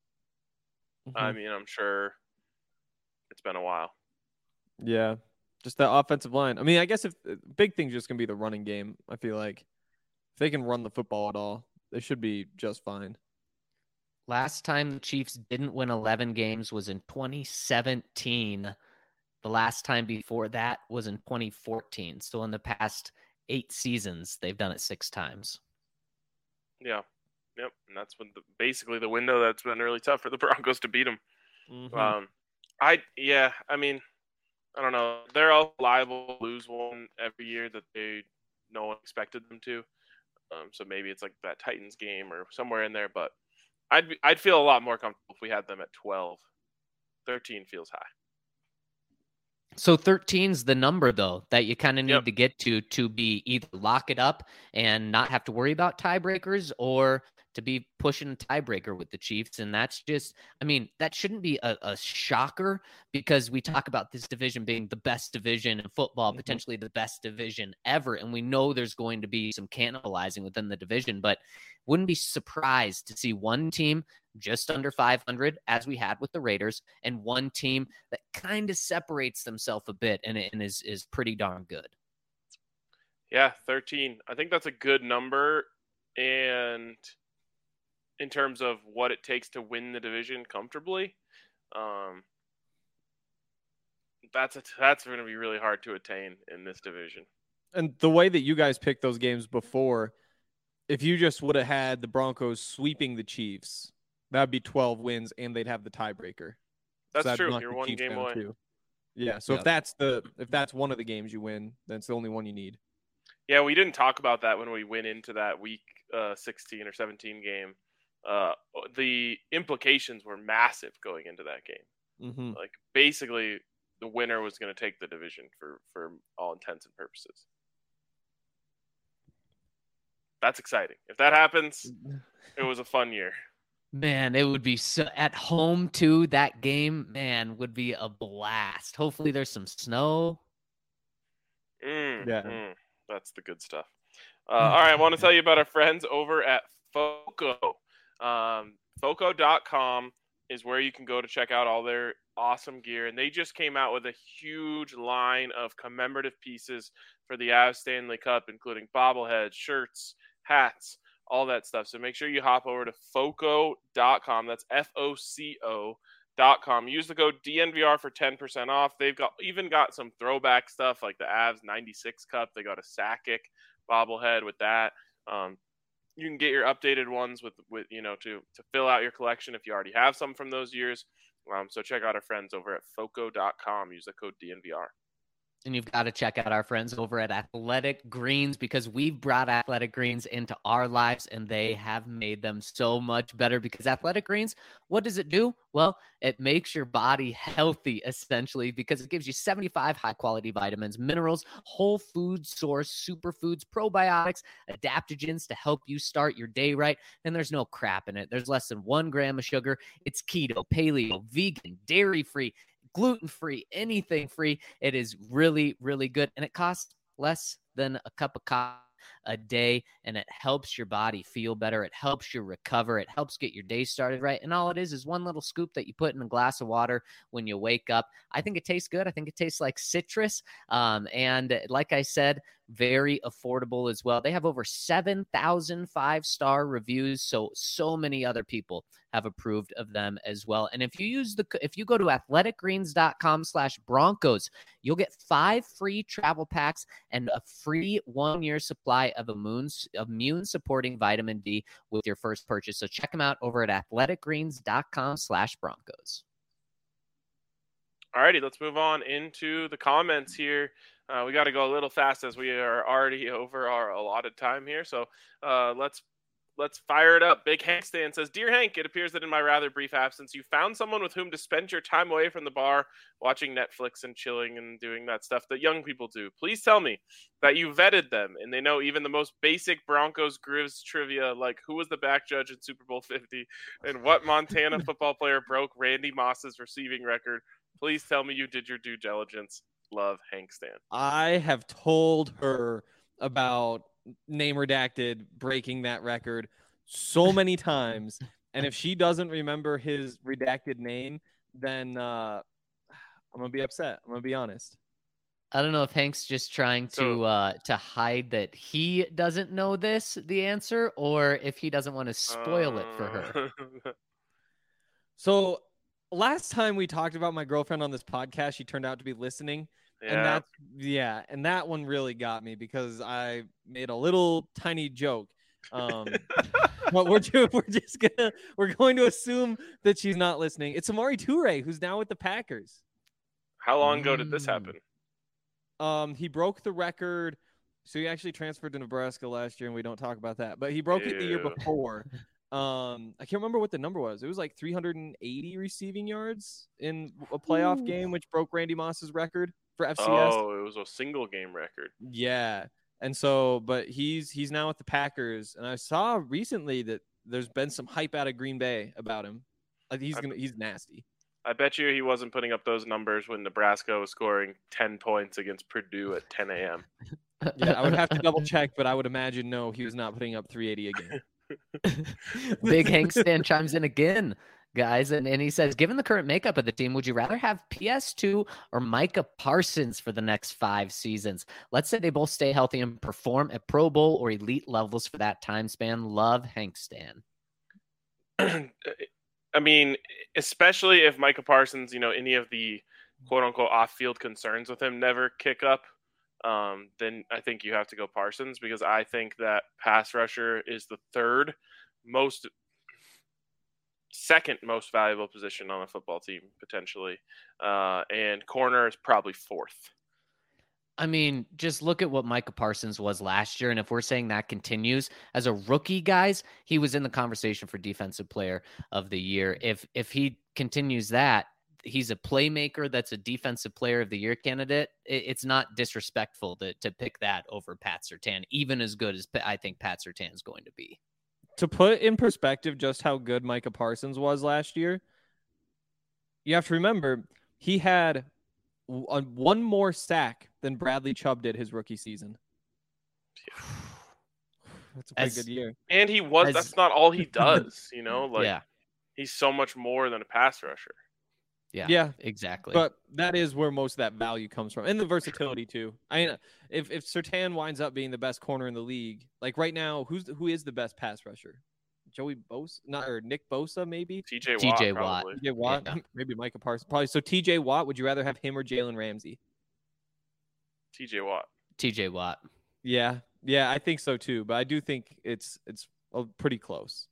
I mean, I'm sure it's been a while. Yeah, just that offensive line. I mean, I guess if big thing's just gonna be the running game. I feel like if they can run the football at all, they should be just fine. Last time the Chiefs didn't win eleven games was in twenty seventeen. The last time before that was in twenty fourteen. So in the past eight seasons, they've done it six times. Yeah. Yep, and that's when the, basically the window that's been really tough for the Broncos to beat them. Mm-hmm. Um, I yeah, I mean, I don't know. They're all liable to lose one every year that they no one expected them to. Um, so maybe it's like that Titans game or somewhere in there. But I'd be, I'd feel a lot more comfortable if we had them at twelve. thirteen feels high. So thirteen's the number, though, that you kind of need yep. to get to to be either lock it up and not have to worry about tiebreakers or to be pushing a tiebreaker with the Chiefs. And that's just, I mean, that shouldn't be a, a shocker because we talk about this division being the best division in football, mm-hmm. potentially the best division ever. And we know there's going to be some cannibalizing within the division, but wouldn't be surprised to see one team just under five hundred as we had with the Raiders and one team that kind of separates themselves a bit and, and is, is pretty darn good. Yeah. thirteen. I think that's a good number. And in terms of what it takes to win the division comfortably, um, That's a, that's going to be really hard to attain in this division. And the way that you guys picked those games before, if you just would have had the Broncos sweeping the Chiefs, that'd be twelve wins, and they'd have the tiebreaker. That's so true. You're one game away. Too. Yeah. So yeah. if that's the if that's one of the games you win, then it's the only one you need. Yeah, we didn't talk about that when we went into that week uh, sixteen or seventeen game. Uh, the implications were massive going into that game. Mm-hmm. Like basically, the winner was going to take the division for for all intents and purposes. That's exciting. If that happens, it was a fun year. Man, it would be so at home too. That game, man, would be a blast. Hopefully, there's some snow. Mm, yeah, mm, that's the good stuff. Uh, all right, I want to tell you about our friends over at Foco. Um, Foco dot com is where you can go to check out all their awesome gear, and they just came out with a huge line of commemorative pieces for the Avs Stanley Cup, including bobbleheads, shirts, hats, all that stuff. So make sure you hop over to Foco dot com. That's F O C O dot com. Use the code D N V R for ten percent off. They've got even got some throwback stuff like the Avs ninety-six Cup. They got a Sakic bobblehead with that. Um, you can get your updated ones with, with you know, to, to fill out your collection if you already have some from those years. Um, so check out our friends over at Foco dot com. Use the code D N V R. And you've got to check out our friends over at Athletic Greens, because we've brought Athletic Greens into our lives and they have made them so much better. Because Athletic Greens, what does it do? Well, it makes your body healthy, essentially, because it gives you seventy-five high-quality vitamins, minerals, whole food source, superfoods, probiotics, adaptogens to help you start your day right. And there's no crap in it. There's less than one gram of sugar. It's keto, paleo, vegan, dairy-free, gluten-free, anything free. It is really, really good. And it costs less than a cup of coffee a day, and it helps your body feel better. It helps you recover. It helps get your day started right. And all it is is one little scoop that you put in a glass of water when you wake up. I think it tastes good. I think it tastes like citrus. Um, and like I said, very affordable as well. They have over seven thousand five-star reviews, so so many other people have approved of them as well. And if you use the if you go to athletic greens dot com slash Broncos, you'll get five free travel packs and a free one-year supply of immune immune supporting vitamin D with your first purchase. So check them out over at athletic greens dot com slash Broncos. All righty, let's move on into the comments here. Uh, we got to go a little fast as we are already over our allotted time here. So uh, let's let's fire it up. Big Hank Stan says, "Dear Hank, it appears that in my rather brief absence, you found someone with whom to spend your time away from the bar, watching Netflix and chilling and doing that stuff that young people do. Please tell me that you vetted them and they know even the most basic Broncos Grizz trivia, like who was the back judge in Super Bowl fifty and what Montana football player broke Randy Moss's receiving record. Please tell me you did your due diligence. Love, Hank Stan." I have told her about name redacted breaking that record so many times, and if she doesn't remember his redacted name, then uh, I'm gonna be upset. I'm gonna be honest. I don't know if Hank's just trying to So, uh, to hide that he doesn't know this, the answer, or if he doesn't want to spoil uh... it for her. So last time we talked about my girlfriend on this podcast, she turned out to be listening. Yeah. And that's, yeah, and that one really got me because I made a little tiny joke. Um, but we're ju- we're just gonna we're going to assume that she's not listening. It's Amari Toure, who's now with the Packers. How long ago did this happen? Um, he broke the record. So he actually transferred to Nebraska last year, and we don't talk about that. But he broke Ew. it the year before. Um, I can't remember what the number was. It was like three hundred eighty receiving yards in a playoff Ooh. game, which broke Randy Moss's record for F C S. Oh, it was a single game record. Yeah. And so, but he's he's now with the Packers, and I saw recently that there's been some hype out of Green Bay about him. Like he's gonna he's nasty. I bet you he wasn't putting up those numbers when Nebraska was scoring ten points against Purdue at ten a.m. Yeah, I would have to double check, but I would imagine no, he was not putting up three eighty again. Big Hank Stan chimes in again, guys, and, and he says, given the current makeup of the team, would you rather have P S two or Micah Parsons for the next five seasons? Let's say they both stay healthy and perform at Pro Bowl or elite levels for that time span. Love, Hank Stan. I mean, especially if Micah Parsons, you know, any of the quote unquote off field concerns with him never kick up, um, then I think you have to go Parsons, because I think that pass rusher is the third most, second most valuable position on a football team potentially, uh, and corner is probably fourth. I mean, just look at what Micah Parsons was last year. And if we're saying that continues as a rookie, guys, he was in the conversation for defensive player of the year. If, if he continues that, he's a playmaker. That's a defensive player of the year candidate. It, it's not disrespectful to, to pick that over Pat Surtain, even as good as I think Pat Surtain is going to be. To put in perspective just how good Micah Parsons was last year, you have to remember he had one more sack than Bradley Chubb did his rookie season. Yeah. That's a pretty as, good year. And he was, as, that's not all he does, you know, like yeah. he's so much more than a pass rusher. Yeah, yeah, exactly. But that is where most of that value comes from, and the versatility too. I mean, if if Surtain winds up being the best corner in the league, like right now, who's who is the best pass rusher? Joey Bosa, not or Nick Bosa, maybe. T J Watt, T J Watt, T J Watt, yeah. Maybe Micah Parsons, probably. So T J Watt, would you rather have him or Jalen Ramsey? T J Watt. T J Watt. Yeah, yeah, I think so too. But I do think it's it's pretty close.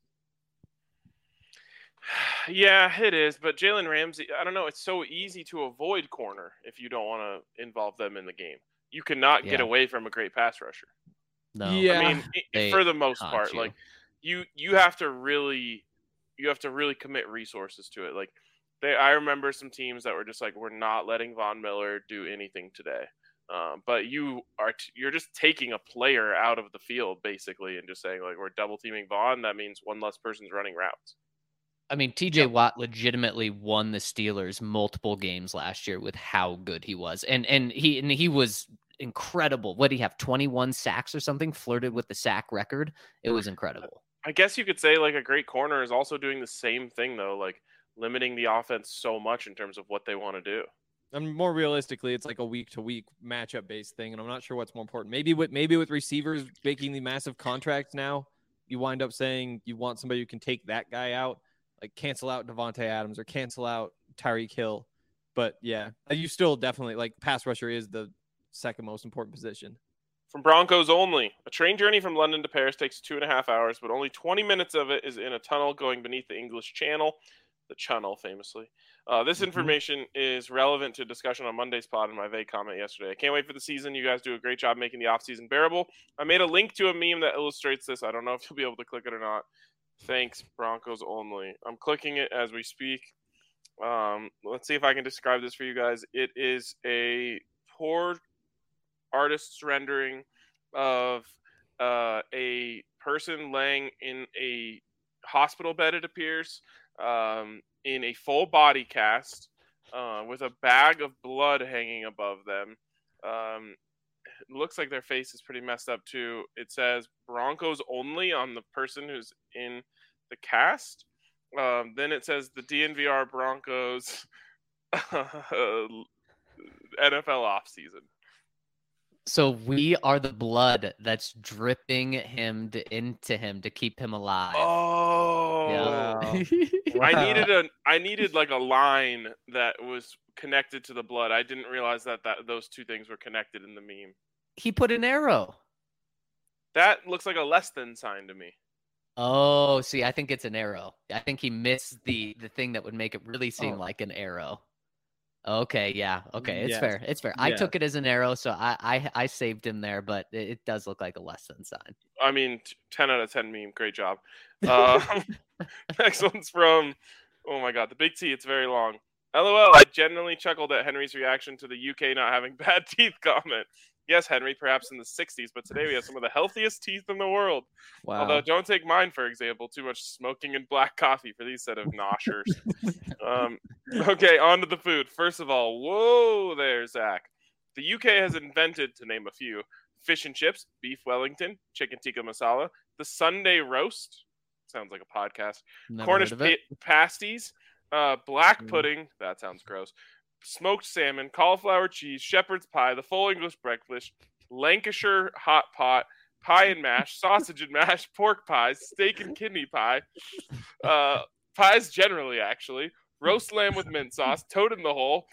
Yeah, it is. But Jalen Ramsey, I don't know. It's so easy to avoid corner if you don't want to involve them in the game. You cannot yeah. get away from a great pass rusher. No, yeah. I mean, they for the most part, you. like you, you have to really, you have to really commit resources to it. Like they, I remember some teams that were just like, we're not letting Von Miller do anything today. Um, but you are, t- you're just taking a player out of the field basically, and just saying like, we're double teaming Von. That means one less person's running routes. I mean, T J Watt legitimately won the Steelers multiple games last year with how good he was. And and he and he was incredible. What did he have? twenty-one sacks or something? Flirted with the sack record. It was incredible. I guess you could say like a great corner is also doing the same thing though, like limiting the offense so much in terms of what they want to do. And more realistically, it's like a week to week matchup based thing. And I'm not sure what's more important. Maybe with maybe with receivers making the massive contracts now, you wind up saying you want somebody who can take that guy out. Like cancel out Devontae Adams or cancel out Tyreek Hill. But yeah, you still definitely like pass rusher is the second most important position. From Broncos only, a train journey from London to Paris takes two and a half hours, but only twenty minutes of it is in a tunnel going beneath the English Channel, the Channel famously. Uh, this Mm-hmm. information is relevant to discussion on Monday's pod in my vague comment yesterday. I can't wait for the season. You guys do a great job making the offseason bearable. I made a link to a meme that illustrates this. I don't know if you'll be able to click it or not. Thanks, Broncos only. I'm clicking it as we speak. Um, let's see if I can describe this for you guys. It is a poor artist's rendering of uh, a person laying in a hospital bed, it appears, um, in a full body cast uh, with a bag of blood hanging above them. Um, it looks like their face is pretty messed up too. It says Broncos only on the person who's in the cast. Um, then it says the D N V R Broncos N F L offseason. So we are the blood that's dripping him to, into him to keep him alive. Oh, Yeah. Wow. I needed a I needed like a line that was connected to the blood. I didn't realize that, that those two things were connected in the meme. He put an arrow. That looks like a less than sign to me. Oh, see, I think it's an arrow. I think he missed the the thing that would make it really seem Oh. like an arrow. Okay, yeah, okay, it's Yes. fair. It's fair. I Yeah. took it as an arrow, so I I, I saved him there, but it, it does look like a less than sign. I mean, ten out of ten meme. Great job. Uh, next one's from, oh my God, the big T. It's very long. LOL, I genuinely chuckled at Henry's reaction to the U K not having bad teeth comment. Yes, Henry, perhaps in the sixties, but today we have some of the healthiest teeth in the world. Wow. Although, don't take mine, for example. Too much smoking and black coffee for these set of noshers. um, okay, on to the food. First of all, whoa there, Zach. The U K has invented, to name a few, fish and chips, beef Wellington, chicken tikka masala, the Sunday roast. Sounds like a podcast. Never Cornish heard of it. pa- pasties, uh, black Mm. pudding. That sounds gross. Smoked salmon, cauliflower cheese, shepherd's pie, the full English breakfast, Lancashire hot pot, pie and mash, sausage and mash, pork pies, steak and kidney pie, uh, pies generally, actually, roast lamb with mint sauce, toad in the hole,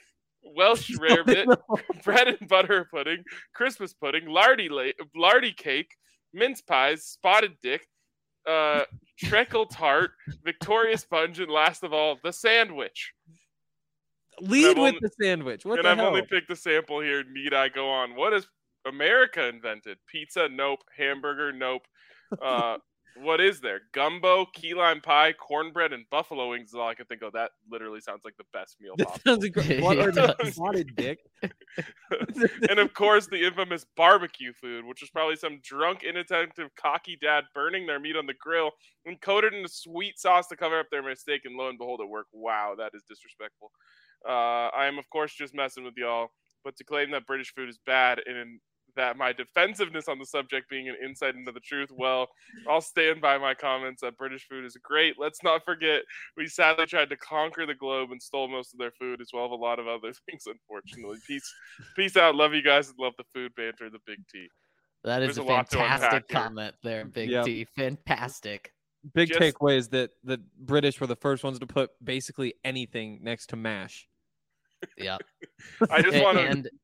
Welsh rarebit, bread and butter pudding, Christmas pudding, lardy la- lardy cake, mince pies, spotted dick, uh, treacle tart, Victoria sponge, and last of all, the sandwich. Lead with only, the sandwich. What and the I've hell? only picked a sample here. Need I go on? What has America invented? Pizza? Nope. Hamburger? Nope. Uh, what is there? Gumbo, key lime pie, cornbread, and buffalo wings is all I can think of. That literally sounds like the best meal That possible. sounds incredible. What It are the does. spotted dick? And of course, the infamous barbecue food, which was probably some drunk, inattentive, cocky dad burning their meat on the grill and coated in a sweet sauce to cover up their mistake. And lo and behold, it worked. Wow, that is disrespectful. Uh, I am, of course, just messing with y'all. But to claim that British food is bad and that my defensiveness on the subject being an insight into the truth, well, I'll stand by my comments that British food is great. Let's not forget, we sadly tried to conquer the globe and stole most of their food, as well as a lot of other things, unfortunately. Peace peace out. Love you guys and love the food banter, the Big T. That is There's a a lot to unpack fantastic here. comment there, Big Yep. T. Fantastic. Big Just- takeaway is that the British were the first ones to put basically anything next to mash. Yeah. I just want to And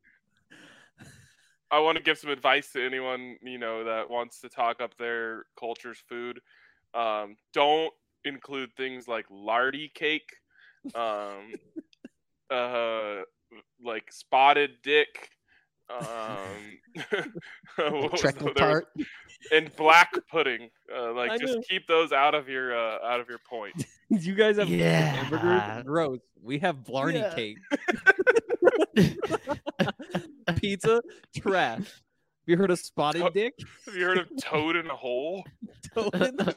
I want to give some advice to anyone, you know, that wants to talk up their culture's food. Um, don't include things like lardy cake, um, uh, like spotted dick, um, what was treacle the- there was- tart. and black pudding. Uh, I like, just know. keep those out of your uh, out of your point. You guys have Yeah. hamburgers? Gross. We have Blarney Yeah. cake. Pizza? Trash. Have you heard of spotted Oh. dick? Have you heard of toad in a hole? Uh,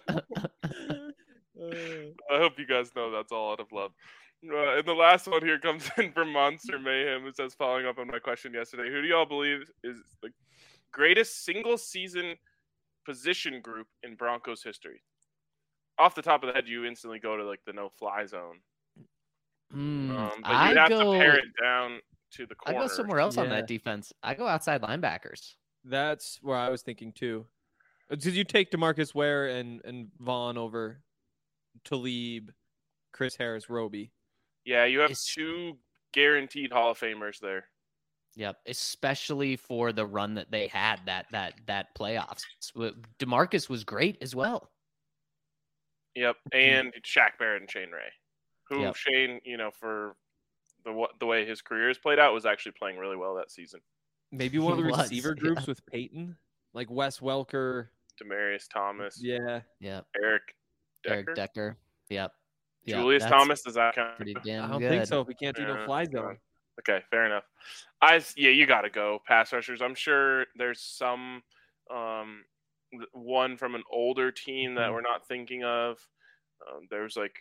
I hope you guys know that's all out of love. Uh, and the last one here comes in from Monster Mayhem. It says, following up on my question yesterday, who do y'all believe is the greatest single season position group in Broncos history? Off the top of the head, you instantly go to like the no fly zone. Hmm, Um, but I you have go. to pare it down to the I corner. go somewhere else on Yeah. that defense. I go outside linebackers. That's where I was thinking too. Uh, Did you take DeMarcus Ware and, and Vaughn over Talib, Chris Harris, Roby? Yeah, you have It's- two guaranteed Hall of Famers there. Yep, especially for the run that they had that that that playoffs. W- DeMarcus was great as well. Yep, and Shaq Barrett and Shane Ray, who Yep. Shane, you know, for the wa- the way his career has played out, was actually playing really well that season. Maybe one of the He was, receiver yeah. groups with Peyton, like Wes Welker. Demarius Thomas, Yeah, Yep, Eric Decker, Eric Decker. Yep, Yep, Julius that's Thomas. Does that count? Pretty I damn don't good. think so. If we can't do no Yeah, fly come zone. on. Okay, fair enough. I s- yeah, you got to go pass rushers. I'm sure there's some um th- one from an older team that Mhm. we're not thinking of. Um, there's like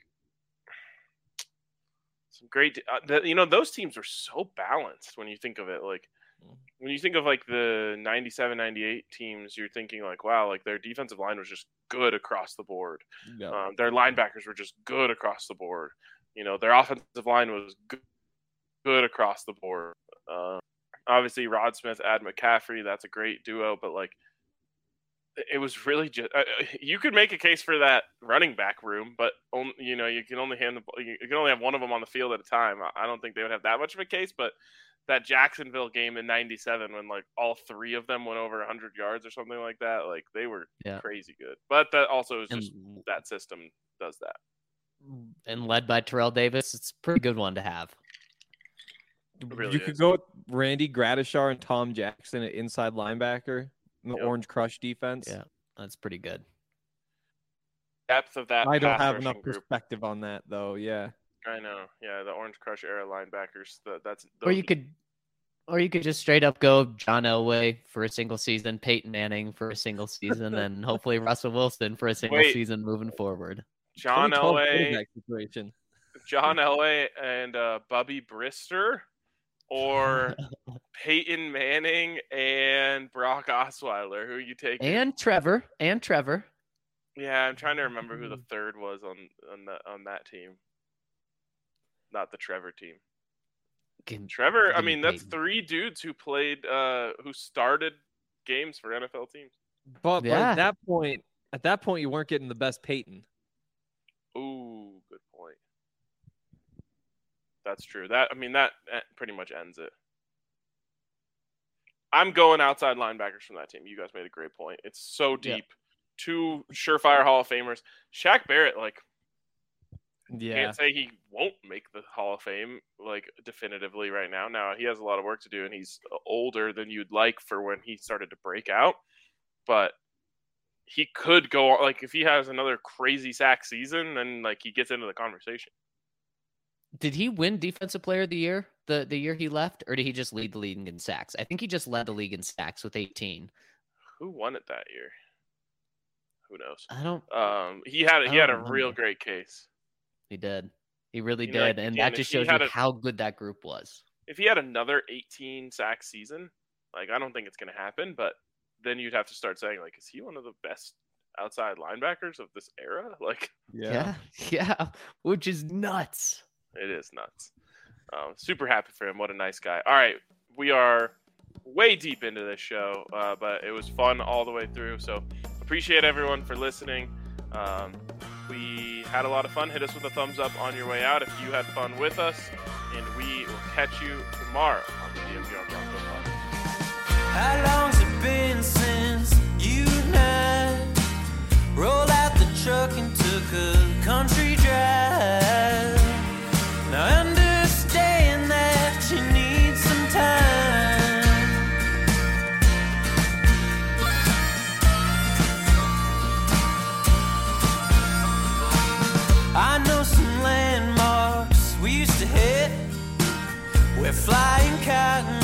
some great, uh, the, you know, those teams were so balanced when you think of it. Like Mhm. when you think of like the ninety-seven, ninety-eight teams, you're thinking like, wow, like their defensive line was just good across the board. Yeah. Um, their linebackers were just good across the board. You know, their offensive line was good, good across the board. Uh, obviously, Rod Smith, Ad McCaffrey, that's a great duo. But like, it was really just uh, you could make a case for that running back room, but only, you know, you can only hand the ball- you can only have one of them on the field at a time. I don't think they would have that much of a case, but that Jacksonville game in ninety-seven when like all three of them went over one hundred yards or something like that, like they were Yeah. crazy good. But that also is just And, that system does that. and led by Terrell Davis, it's a pretty good one to have. It really you could is. go with Randy Gradishar and Tom Jackson at inside linebacker in the Yep. Orange Crush defense. Yeah, that's pretty good. Depth of that I don't pass have rushing enough group. perspective on that though. Yeah. I know. Yeah, the Orange Crush era linebackers. That, that's Or those- you could, or you could just straight up go John Elway for a single season, Peyton Manning for a single season, and hopefully Russell Wilson for a single Wait. season moving forward. John twenty twelve Elway, quarterback situation. John Elway, and uh, Bubby Brister, or Peyton Manning and Brock Osweiler. Who you take? And Trevor, and Trevor. Yeah, I'm trying to remember who the third was on on the, on that team. Not the Trevor team. Can- Trevor. I Give me mean, that's Peyton. three dudes who played, uh, who started games for N F L teams. But, but Yeah. at that point, at that point, you weren't getting the best Peyton. Ooh, good point. That's true. That I mean, that, that pretty much ends it. I'm going outside linebackers from that team. You guys made a great point. It's so deep. Yeah. Two surefire Hall of Famers. Shaq Barrett, like, yeah. can't say he won't make the Hall of Fame, like, definitively right now. Now, he has a lot of work to do, and he's older than you'd like for when he started to break out. But he could go, like, if he has another crazy sack season, then, like, he gets into the conversation. Did he win Defensive Player of the Year the, the year he left, or did he just lead the league in sacks? I think he just led the league in sacks with eighteen. Who won it that year? Who knows? I don't. Um, he had he had a remember. real great case. He did. He really you did, know, like, and again, that just shows you a, how good that group was. If he had another eighteen sack season, like I don't think it's going to happen, but then you'd have to start saying, like, is he one of the best outside linebackers of this era? Like, yeah, yeah, yeah which is nuts. It is nuts. Um, super happy for him. What a nice guy. All right, we are way deep into this show, uh, but it was fun all the way through. So appreciate everyone for listening. Um, we had a lot of fun. Hit us with a thumbs up on your way out if you had fun with us, and we will catch you tomorrow on the D M V R Broncos Pod. How long's it been since you and I rolled out the truck and took a country drive? Now understand that you need some time. I know some landmarks we used to hit where flying cotton